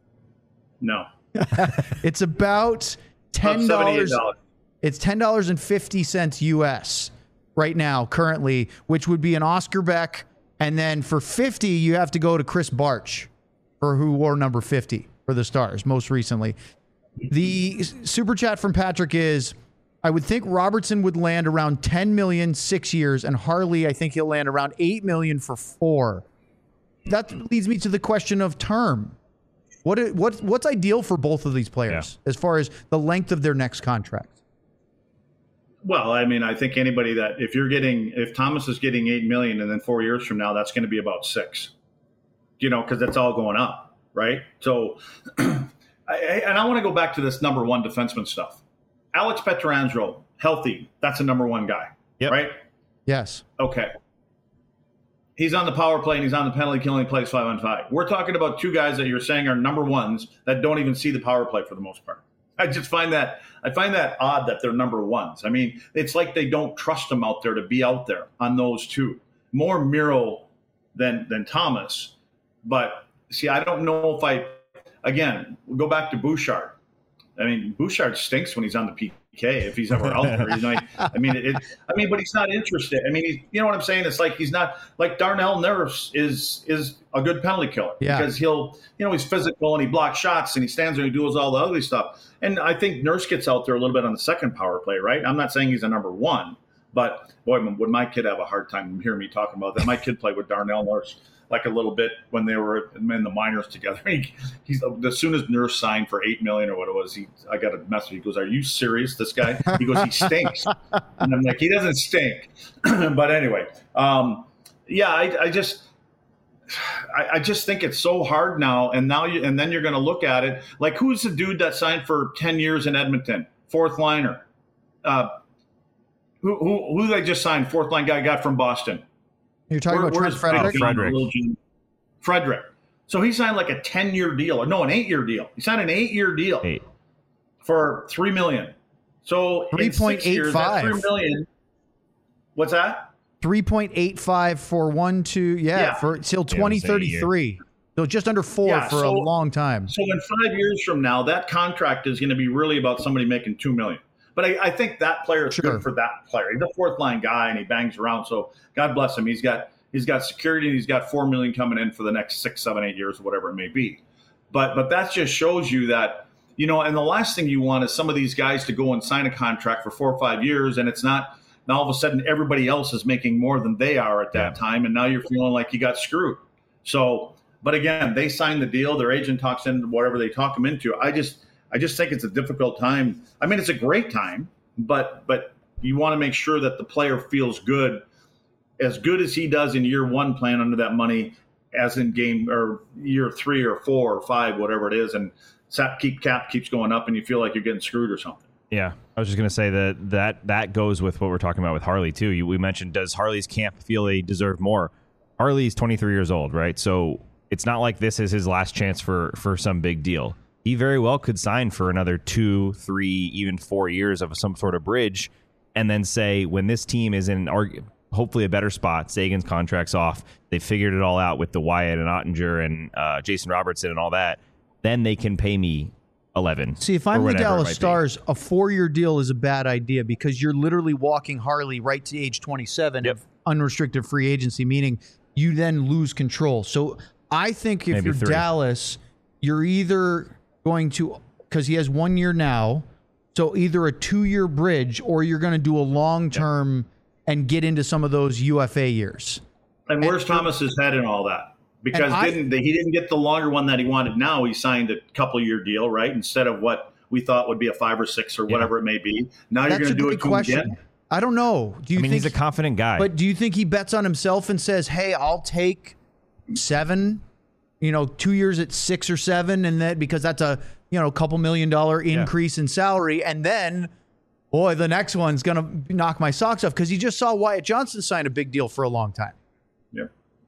No. It's about ten About dollars. seventy-eight dollars. It's ten dollars and fifty cents U S right now, currently, which would be an Oscar Beck. And then for fifty, you have to go to Chris Barch, for who wore number fifty for the Stars most recently. The super chat from Patrick is, I would think Robertson would land around ten million six years, and Harley, I think he'll land around eight million for four. That leads me to the question of term. What what what's ideal for both of these players as far as the length of their next contract? Well, I mean, I think anybody that if you're getting if Thomas is getting eight million, and then four years from now, that's going to be about six. You know, because that's all going up, right? So, I, and I want to go back to this number one defenseman stuff. Alex Pietrangelo, healthy, that's a number one guy, yep. right? Yes. Okay. He's on the power play and he's on the penalty kill and he plays five on five. We're talking about two guys that you're saying are number ones that don't even see the power play for the most part. I just find that I find that odd that they're number ones. I mean, it's like they don't trust them out there to be out there on those two. More Miro than than Thomas. But see, I don't know if I again we'll go back to Bouchard. I mean, Bouchard stinks when he's on the P K if he's ever out there. You know, I mean, it, I mean, but he's not interested. I mean, he's, you know what I'm saying? It's like he's not like Darnell Nurse is is a good penalty killer yeah. because he'll, you know, he's physical and he blocks shots and he stands there and he does all the ugly stuff. And I think Nurse gets out there a little bit on the second power play, right? I'm not saying he's a number one, but boy, would my kid have a hard time hearing me talking about that. My kid played with Darnell Nurse like a little bit when they were in the minors together. He, he's as soon as Nurse signed for eight million or what it was, he I got a message. He goes, "Are you serious? This guy?" He goes, "He stinks," and I'm like, "He doesn't stink." But anyway, um, yeah, I, I just. I, I just think it's so hard now, and now you and then you're going to look at it like who's the dude that signed for ten years in Edmonton, fourth liner? Uh, who who who they just signed? Fourth line guy got from Boston. You're talking Where, about Trent Frederick? Frederick. Frederick. So he signed like a ten-year deal, or no, an eight-year deal. He signed an eight-year deal Eight. for three million. So three point eight five. Three million. What's that? three point eight five for one, two, yeah, Yeah. for till Yeah, twenty it was eight thirty-three. So just under four Yeah, for so- a long time. So in five years from now, that contract is going to be really about somebody making two million. But I, I think that player is Sure. good for that player. He's a fourth line guy and he bangs around. So God bless him. He's got he's got security and he's got four million coming in for the next six, seven, eight years, or whatever it may be. But but that just shows you that, you know, and the last thing you want is some of these guys to go and sign a contract for four or five years and it's not. Now all of a sudden everybody else is making more than they are at that Yeah. time, and now you're feeling like you got screwed. So, but again, they signed the deal. Their agent talks into whatever they talk them into. I just, I just think it's a difficult time. I mean, it's a great time, but but you want to make sure that the player feels good, as good as he does in year one playing under that money, as in game or year three or four or five, whatever it is, and sap keep cap keeps going up, and you feel like you're getting screwed or something. Yeah, I was just going to say that, that that goes with what we're talking about with Harley, too. You, we mentioned, does Harley's camp feel they deserve more? Harley's twenty-three years old, right? So it's not like this is his last chance for, for some big deal. He very well could sign for another two, three, even four years of some sort of bridge and then say, when this team is in argue, hopefully a better spot, Sagan's contract's off, they figured it all out with the Wyatt and Ottinger and uh, Jason Robertson and all that, then they can pay me eleven. See, if I'm the Dallas Stars, a four-year deal is a bad idea because you're literally walking Harley right to age twenty-seven Yep. of unrestricted free agency, meaning you then lose control. So I think if Maybe you're three. Dallas, you're either going to, because he has one year now, so either a two-year bridge or you're going to do a long-term yep. and get into some of those U F A years. And where's and, Thomas's head in all that? Because I, didn't he didn't get the longer one that he wanted. Now he signed a couple year deal, right? Instead of what we thought would be a five or six or whatever yeah. it may be. Now you're going to do it to him again. I don't know. Do you I mean, think he's a confident guy? But do you think he bets on himself and says, "Hey, I'll take seven, you know, two years at six or seven, and that because that's a you know couple million dollar increase yeah. in salary, and then." Boy, the next one's going to knock my socks off because he just saw Wyatt Johnson sign a big deal for a long time. Yeah.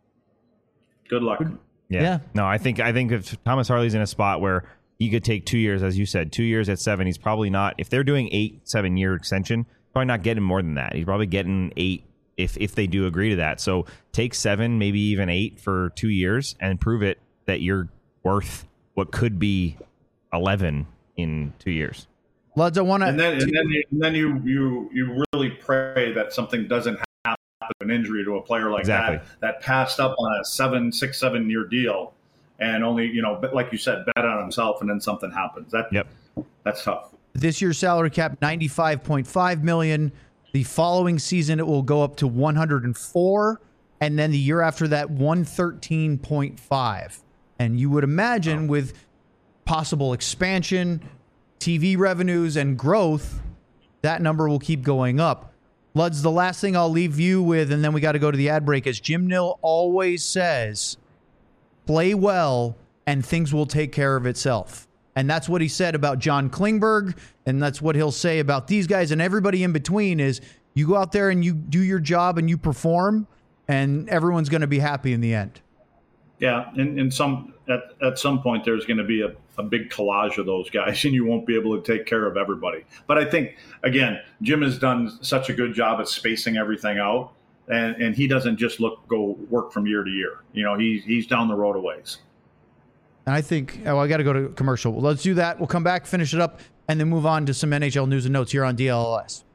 Good luck. Yeah. yeah. No, I think I think if Thomas Harley's in a spot where he could take two years, as you said, two years at seven, he's probably not. If they're doing eight, seven year extension, probably not getting more than that. He's probably getting eight if if they do agree to that. So take seven, maybe even eight for two years, and prove it that you're worth what could be eleven in two years. Luds, I want to. And then, and then, you, and then you you you really pray that something doesn't happen, an injury to a player like exactly. that that passed up on a seven, six, seven year deal, and only you know, like you said, bet on himself, and then something happens. That yep, that's tough. This year's salary cap ninety-five point five million. The following season it will go up to one hundred four, and then the year after that one thirteen point five. And you would imagine oh. with possible expansion, T V revenues and growth, that number will keep going up. Luds, the last thing I'll leave you with, and then we got to go to the ad break, is Jim Nill always says, play well and things will take care of itself. And that's what he said about John Klingberg, and that's what he'll say about these guys and everybody in between is you go out there and you do your job and you perform, and everyone's going to be happy in the end. Yeah, and, and some at, at some point there's going to be a, a big collage of those guys, and you won't be able to take care of everybody. But I think, again, Jim has done such a good job at spacing everything out, and, and he doesn't just look go work from year to year. You know, he's he's down the road a ways. And I think, oh, I got to go to commercial. Well, let's do that. We'll come back, finish it up, and then move on to some N H L news and notes here on D L L S.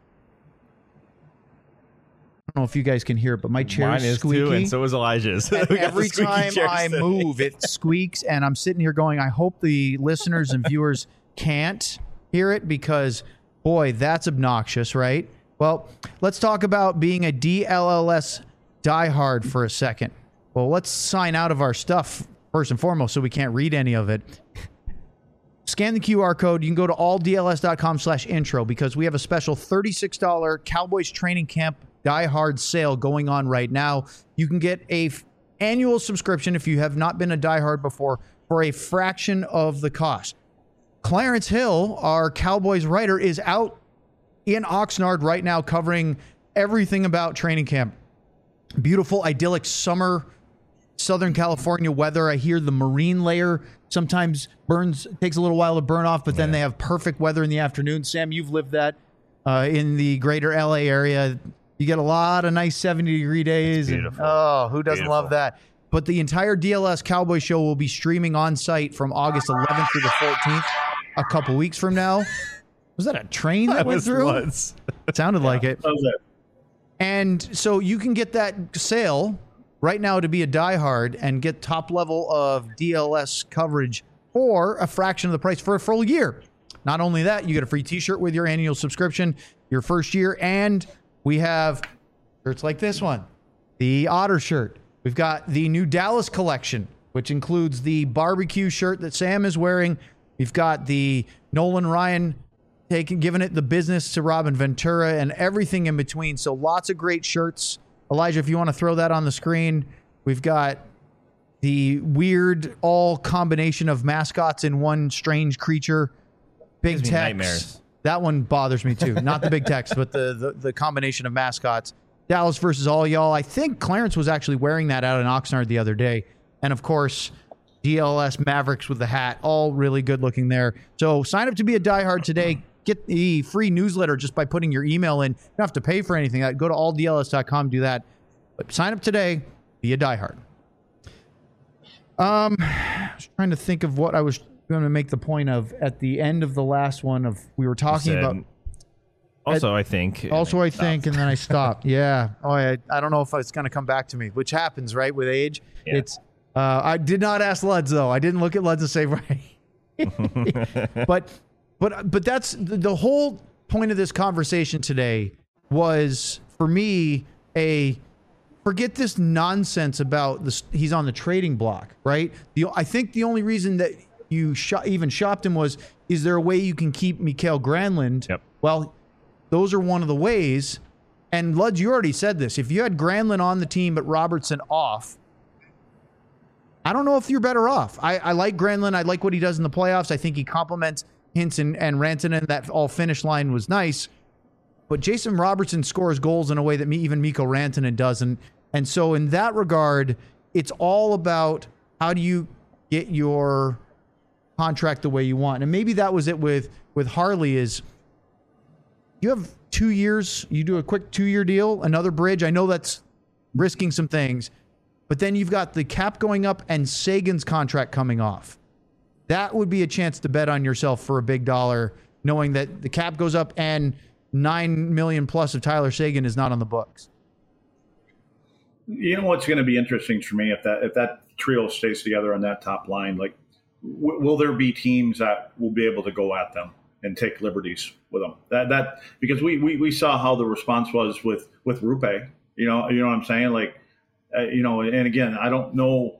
I don't know if you guys can hear it, but my chair Mine is squeaky. Too, and so is Elijah's. Every time I today. move, it squeaks, and I'm sitting here going, I hope the listeners and viewers can't hear it because, boy, that's obnoxious, right? Well, let's talk about being a D L L S diehard for a second. Well, let's sign out of our stuff first and foremost so we can't read any of it. Scan the Q R code. You can go to all D L S dot com slash intro because we have a special thirty-six dollars Cowboys Training Camp Die Hard sale going on right now. You can get a f- annual subscription if you have not been a Die Hard before for a fraction of the cost. Clarence Hill, our Cowboys writer, is out in Oxnard right now covering everything about training camp. Beautiful, idyllic summer, Southern California weather. I hear the marine layer sometimes burns, takes a little while to burn off, but then yeah. they have perfect weather in the afternoon. Sam, you've lived that uh, in the greater L A area. You get a lot of nice seventy degree days. And, oh, who doesn't beautiful. love that? But the entire D L S Cowboy Show will be streaming on site from August eleventh through the fourteenth, a couple weeks from now. Was that a train that, that went through? Was. It sounded yeah, like it. That was it. And so you can get that sale right now to be a diehard and get top level of D L S coverage for a fraction of the price for a full year. Not only that, you get a free t-shirt with your annual subscription, your first year, and we have shirts like this one, the Otter shirt. We've got the new Dallas collection, which includes the barbecue shirt that Sam is wearing. We've got the Nolan Ryan taking, giving it the business to Robin Ventura and everything in between. So lots of great shirts. Elijah, if you want to throw that on the screen, we've got the weird all combination of mascots in one strange creature. Big text. Nightmares. That one bothers me too. Not the big text, but the, the the combination of mascots. Dallas versus all y'all. I think Clarence was actually wearing that out in Oxnard the other day. And of course, D L S Mavericks with the hat. All really good looking there. So sign up to be a diehard today. Get the free newsletter just by putting your email in. You don't have to pay for anything. Go to all D L S dot com, do that. But sign up today, be a diehard. Um, I was trying to think of what I was going to make the point of at the end of the last one of we were talking said, about. Also, at, I think. Also, I think, and then I stopped. Yeah. Oh, I, I don't know if it's going to come back to me, which happens, right, with age. Yeah. It's. Uh, I did not ask Luds, though. I didn't look at Luds and say, right. but, but, but that's the, the whole point of this conversation today was, for me, a forget this nonsense about this. He's on the trading block, right? The I think the only reason that you shop, even shopped him was, is there a way you can keep Mikael Granlund? Yep. Well, those are one of the ways. And Luds, you already said this. If you had Granlund on the team but Robertson off, I don't know if you're better off. I, I like Granlund. I like what he does in the playoffs. I think he complements Hintz and, and Rantanen. That all finish line was nice. But Jason Robertson scores goals in a way that me, even Mikko Rantanen doesn't. And so in that regard, it's all about how do you get your contract the way you want. And maybe that was it with, with Harley is you have two years, you do a quick two-year deal, another bridge. I know that's risking some things, but then you've got the cap going up and Sagan's contract coming off. That would be a chance to bet on yourself for a big dollar, knowing that the cap goes up and nine million plus of Tyler Sagan is not on the books. You know what's going to be interesting for me if that if that trio stays together on that top line, like w- will there be teams that will be able to go at them and take liberties with them? That that because we we, we saw how the response was with with Rupe. You know you know what I'm saying? Like uh, you know, and again, I don't know.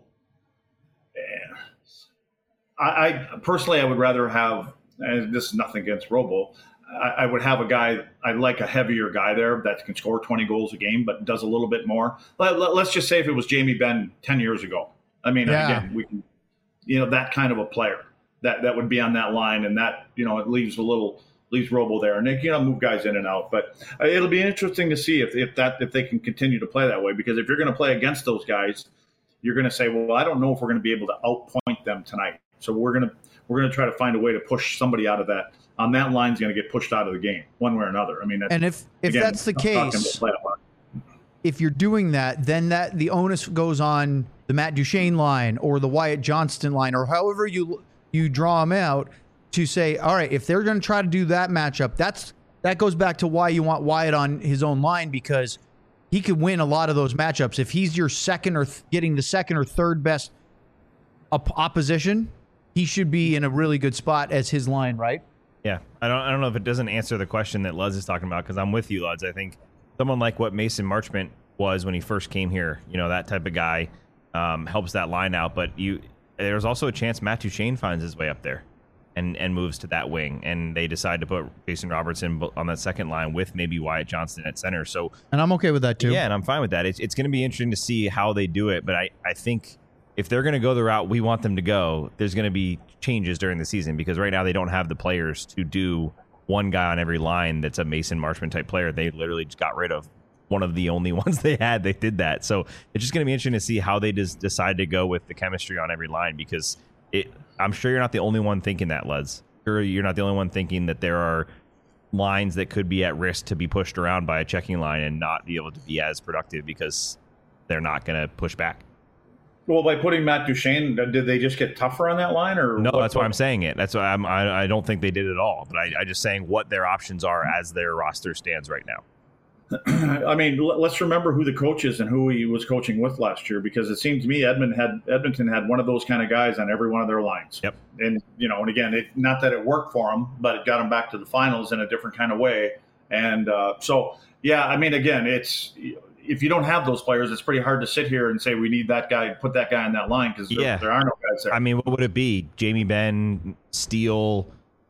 I, I personally, I would rather have. And this is nothing against Robo. I, I would have a guy, I like a heavier guy there that can score twenty goals a game, but does a little bit more. Let, let, let's just say if it was Jamie Benn ten years ago. I mean, Yeah. again, we can, you know, that kind of a player that, that would be on that line, and that, you know, it leaves a little, leaves Robo there, and they, you know, move guys in and out. But uh, it'll be interesting to see if, if that, if they can continue to play that way, because if you're going to play against those guys, you're going to say, well, I don't know if we're going to be able to outpoint them tonight. So we're going to, we're going to try to find a way to push somebody out of that. On that line's going to get pushed out of the game one way or another. I mean, that's, And if if again, that's the I'm talking case, about playoff. if you're doing that, then that the onus goes on the Matt Duchene line or the Wyatt Johnston line, or however you you draw them out, to say, all right, if they're going to try to do that matchup, that's that goes back to why you want Wyatt on his own line, because he could win a lot of those matchups. If he's your second or th- getting the second or third best op- opposition, he should be in a really good spot as his line, right? Yeah, I don't. I don't know if it doesn't answer the question that Luz is talking about, because I'm with you, Luz. I think someone like what Mason Marchment was when he first came here, you know, that type of guy, um, helps that line out. But you, there's also a chance Matt Duchene finds his way up there, and and moves to that wing, and they decide to put Jason Robertson on that second line with maybe Wyatt Johnston at center. So, And I'm okay with that too. yeah, and I'm fine with that. It's it's going to be interesting to see how they do it, but I I think if they're going to go the route we want them to go, there's going to be changes during the season, because right now they don't have the players to do one guy on every line that's a Mason Marchment type player. They literally just got rid of one of the only ones they had. They did that. So it's just going to be interesting to see how they just decide to go with the chemistry on every line, because it, I'm sure you're not the only one thinking that, Luz. Sure, you're not the only one thinking that there are lines that could be at risk to be pushed around by a checking line and not be able to be as productive because they're not going to push back. Well, by putting Matt Duchene, did they just get tougher on that line, or No, what, that's why I'm saying it. That's why I'm, I I don't think they did it at all. But I, I just saying what their options are as their roster stands right now. I mean, l- let's remember who the coach is and who he was coaching with last year, because it seems to me Edmond had Edmonton had one of those kind of guys on every one of their lines. Yep. And you know, and again, it, not that it worked for them, but it got them back to the finals in a different kind of way. And uh, so, yeah, I mean, again, it's. If you don't have those players, it's pretty hard to sit here and say we need that guy, put that guy on that line, because there, Yeah. there are no guys there. I mean, what would it be? Jamie Benn, Steele,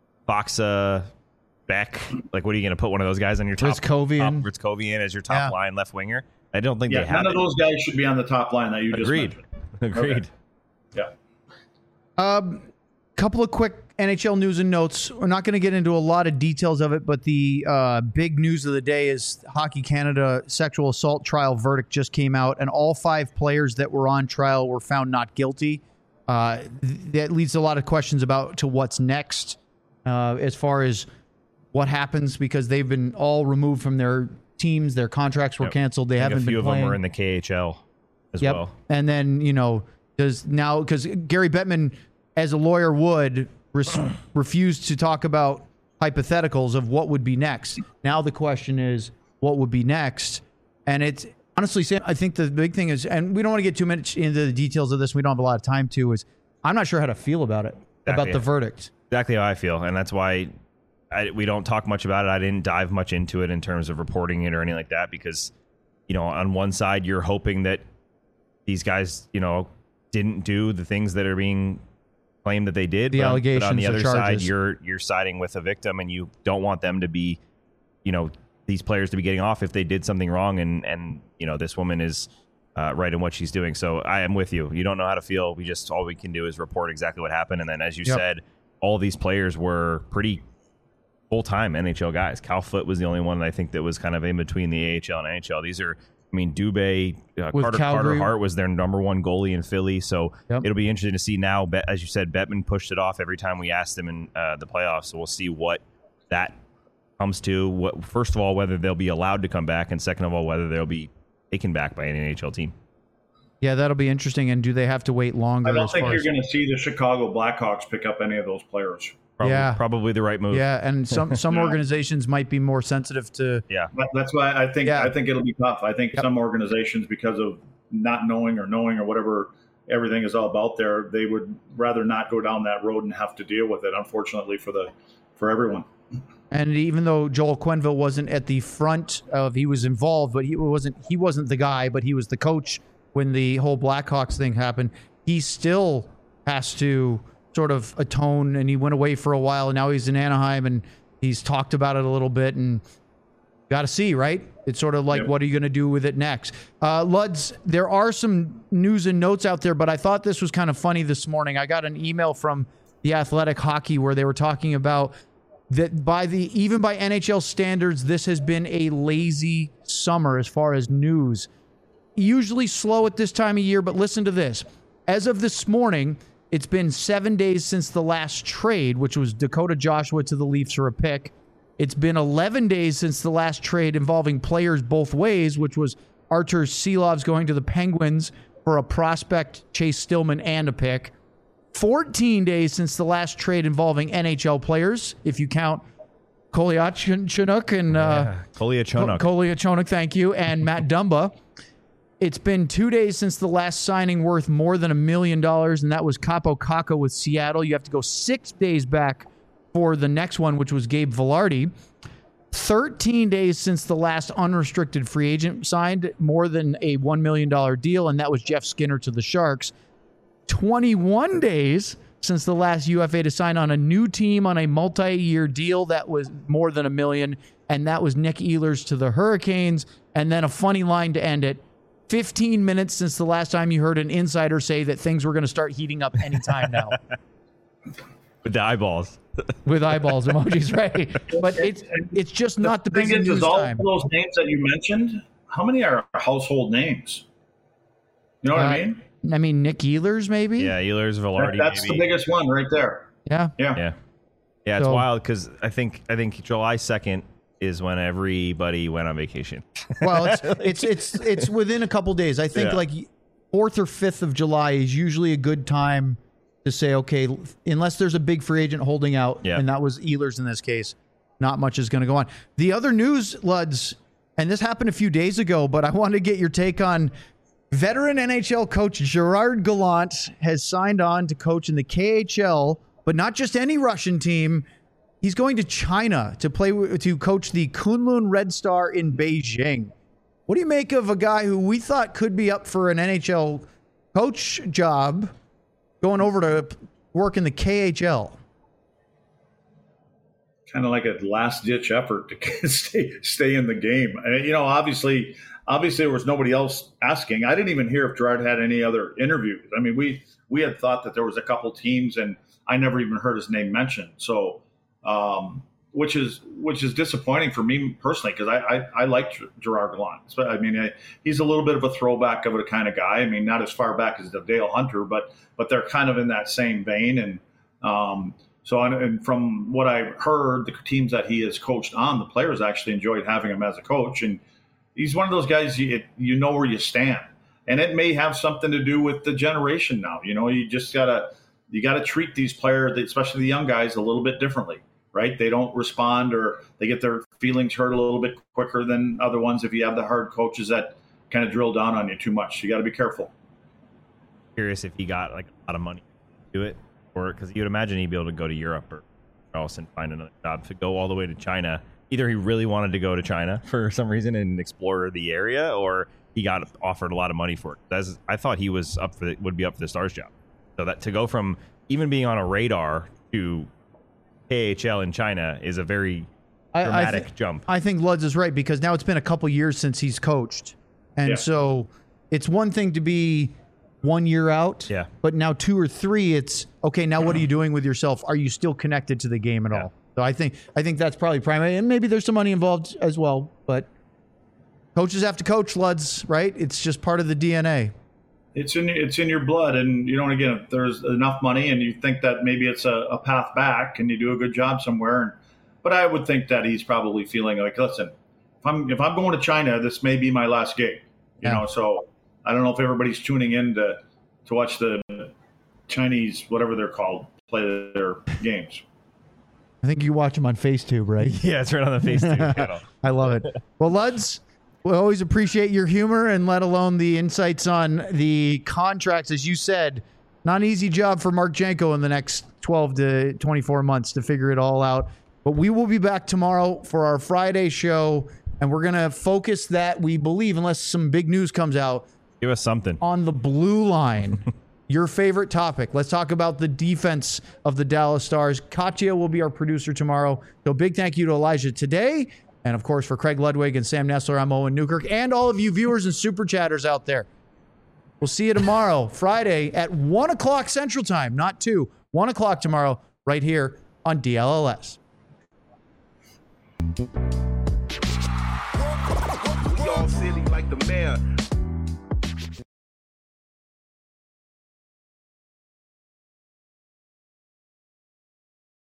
Boxa, Beck. Like, what are you going to put one of those guys on your top? Ritskovian. Top, Ritskovian as your top Yeah. line left winger. I don't think yeah, they have none of it. those guys should be on the top line that you Agreed. just mentioned. Agreed. Okay. A um, couple of quick N H L news and notes. We're not going to get into a lot of details of it, but the uh, big news of the day is Hockey Canada sexual assault trial verdict just came out, and all five players that were on trial were found not guilty. Uh, th- that leads to a lot of questions about to what's next uh, as far as what happens, because they've been all removed from their teams. Their contracts were Yep. canceled. They I think haven't a few been of playing. them are in the K H L as Yep. well. And then, you know, does now, because Gary Bettman, as a lawyer would, res- refuse to talk about hypotheticals of what would be next. Now the question is, what would be next? And it's honestly, Sam, I think the big thing is, and we don't want to get too much into the details of this. We don't have a lot of time to, is I'm not sure how to feel about it, Exactly. about the verdict. Exactly how I feel, and that's why I, we don't talk much about it. I didn't dive much into it in terms of reporting it or anything like that, because, you know, on one side you're hoping that these guys, you know, didn't do the things that are being claimed that they did. The but on, allegations, but on the the other side, charges. you're you're siding with a victim, and you don't want them to be, you know, these players to be getting off if they did something wrong, and and you know, this woman is uh, right in what she's doing. So I am with you. You don't know how to feel. We just all we can do is report exactly what happened, and then as you Yep. said, all these players were pretty full-time N H L guys. Cal Foote was the only one that I think that was kind of in between the A H L and N H L. These are, I mean, Dubé, uh, With Carter, Calgary. Carter Hart was their number one goalie in Philly. So Yep. it'll be interesting to see now. Bet, as you said, Bettman pushed it off every time we asked him in uh, the playoffs. So we'll see what that comes to. What, first of all, whether they'll be allowed to come back, and second of all, whether they'll be taken back by an N H L team. Yeah, that'll be interesting. And do they have to wait longer? I don't as think far you're as- going to see the Chicago Blackhawks pick up any of those players. Probably, Yeah. probably the right move. Yeah, and some some organizations might be more sensitive to. Yeah. That- That's why I think Yeah. I think it'll be tough. I think Yep. some organizations, because of not knowing or knowing or whatever everything is all about there, they would rather not go down that road and have to deal with it. Unfortunately for the for everyone. And even though Joel Quenneville wasn't at the front of, he was involved, but he wasn't he wasn't the guy, but he was the coach when the whole Blackhawks thing happened. He still has to sort of atone, and he went away for a while, and now he's in Anaheim, and He's talked about it a little bit, and got to see, right? It's sort of like, yep. What are you going to do with it next? Uh, Luds, there are some news and notes out there, but I thought this was kind of funny this morning. I got an email from The Athletic Hockey where they were talking about that by the even by N H L standards, this has been a lazy summer as far as news. Usually slow at this time of year, but listen to this. As of this morning, it's been seven days since the last trade, which was Dakota Joshua to the Leafs for a pick. It's been eleven days since the last trade involving players both ways, which was Artur Silovs going to the Penguins for a prospect, Chase Stillman, and a pick. fourteen days since the last trade involving N H L players, if you count Kolyachonok and uh, yeah. Kolyachonok. Kolyachonok, thank you, and Matt Dumba. It's been two days since the last signing worth more than a million dollars, and that was Capo Caco with Seattle. You have to go six days back for the next one, which was Gabe Vilardi. thirteen days since the last unrestricted free agent signed more than a one million dollars deal, and that was Jeff Skinner to the Sharks. twenty-one days since the last U F A to sign on a new team on a multi-year deal that was more than a million, and that was Nick Ehlers to the Hurricanes. And then a funny line to end it. fifteen minutes since the last time you heard an insider say that things were going to start heating up anytime now. With the eyeballs. With eyeballs emojis, right? But it's it's just not the busy news all time. Those names that you mentioned, how many are household names? You know what uh, I mean? I mean, Nick Ehlers, maybe? Yeah, Ehlers, Vilardi, that, That's maybe. the biggest one right there. Yeah. Yeah. Yeah. Yeah, it's So- wild because I think I think July second is when everybody went on vacation. Well, it's it's it's it's within a couple days. I think Yeah. like fourth or fifth of July is usually a good time to say, okay, unless there's a big free agent holding out, Yeah. and that was Ehlers in this case, not much is going to go on. The other news, Luds, and this happened a few days ago, but I wanted to get your take on veteran N H L coach Gerard Gallant has signed on to coach in the K H L, but not just any Russian team. He's going to China to play to coach the Kunlun Red Star in Beijing. What do you make of a guy who we thought could be up for an N H L coach job going over to work in the K H L? Kind of like a last ditch effort to stay stay in the game. And, you know, obviously, obviously there was nobody else asking. I didn't even hear if Gerard had any other interviews. I mean, we we had thought that there was a couple teams, and I never even heard his name mentioned. So, um, which is which is disappointing for me personally, because I, I I like Gerard Gallant. So, I mean, I, he's a little bit of a throwback of a kind of guy. I mean, not as far back as the Dale Hunter, but but they're kind of in that same vein. And um, so, and, and from what I heard, the teams that he has coached on, the players actually enjoyed having him as a coach. And he's one of those guys you you know where you stand, and it may have something to do with the generation now. You know, you just gotta you gotta treat these players, especially the young guys, a little bit differently. Right? They don't respond, or they get their feelings hurt a little bit quicker than other ones if you have the hard coaches that kind of drill down on you too much. You got to be careful. Curious if he got like a lot of money to do it, or because you'd imagine he'd be able to go to Europe or else and find another job to go all the way to China. Either he really wanted to go to China for some reason and explore the area, or he got offered a lot of money for it. That's, I thought he was up for the, would be up for the Stars job. So that to go from even being on a radar to K H L in China is a very dramatic I, I th- jump. I think Luds is right, because now it's been a couple years since he's coached. And Yeah. so it's one thing to be one year out, Yeah. but now two or three, it's, okay, now what are you doing with yourself? Are you still connected to the game at Yeah. all? So I think I think that's probably primary. And maybe there's some money involved as well, but coaches have to coach, Luds, right? It's just part of the D N A. It's in it's in your blood, and you know, again, if there's enough money and you think that maybe it's a, a path back, and you do a good job somewhere. And, but I would think that he's probably feeling like, listen, if I'm if I'm going to China, this may be my last gig. You Yeah. know, so I don't know if everybody's tuning in to to watch the Chinese, whatever they're called, play their games. I think you watch them on FaceTube, right? Yeah, it's right on the face too. channel. I love it. Well, Luds, we always appreciate your humor, and let alone the insights on the contracts. As you said, not an easy job for Mark Janko in the next twelve to twenty-four months to figure it all out. But we will be back tomorrow for our Friday show, and we're going to focus that, we believe, unless some big news comes out, Give us something. on the blue line. your favorite topic. Let's talk about the defense of the Dallas Stars. Katya will be our producer tomorrow. So big thank you to Elijah today. And, of course, for Craig Ludwig and Sam Nestler, I'm Owen Newkirk. And all of you viewers and super chatters out there. We'll see you tomorrow, Friday, at one o'clock Central Time. Not two. one o'clock tomorrow, right here on D L L S. We all silly like the mayor.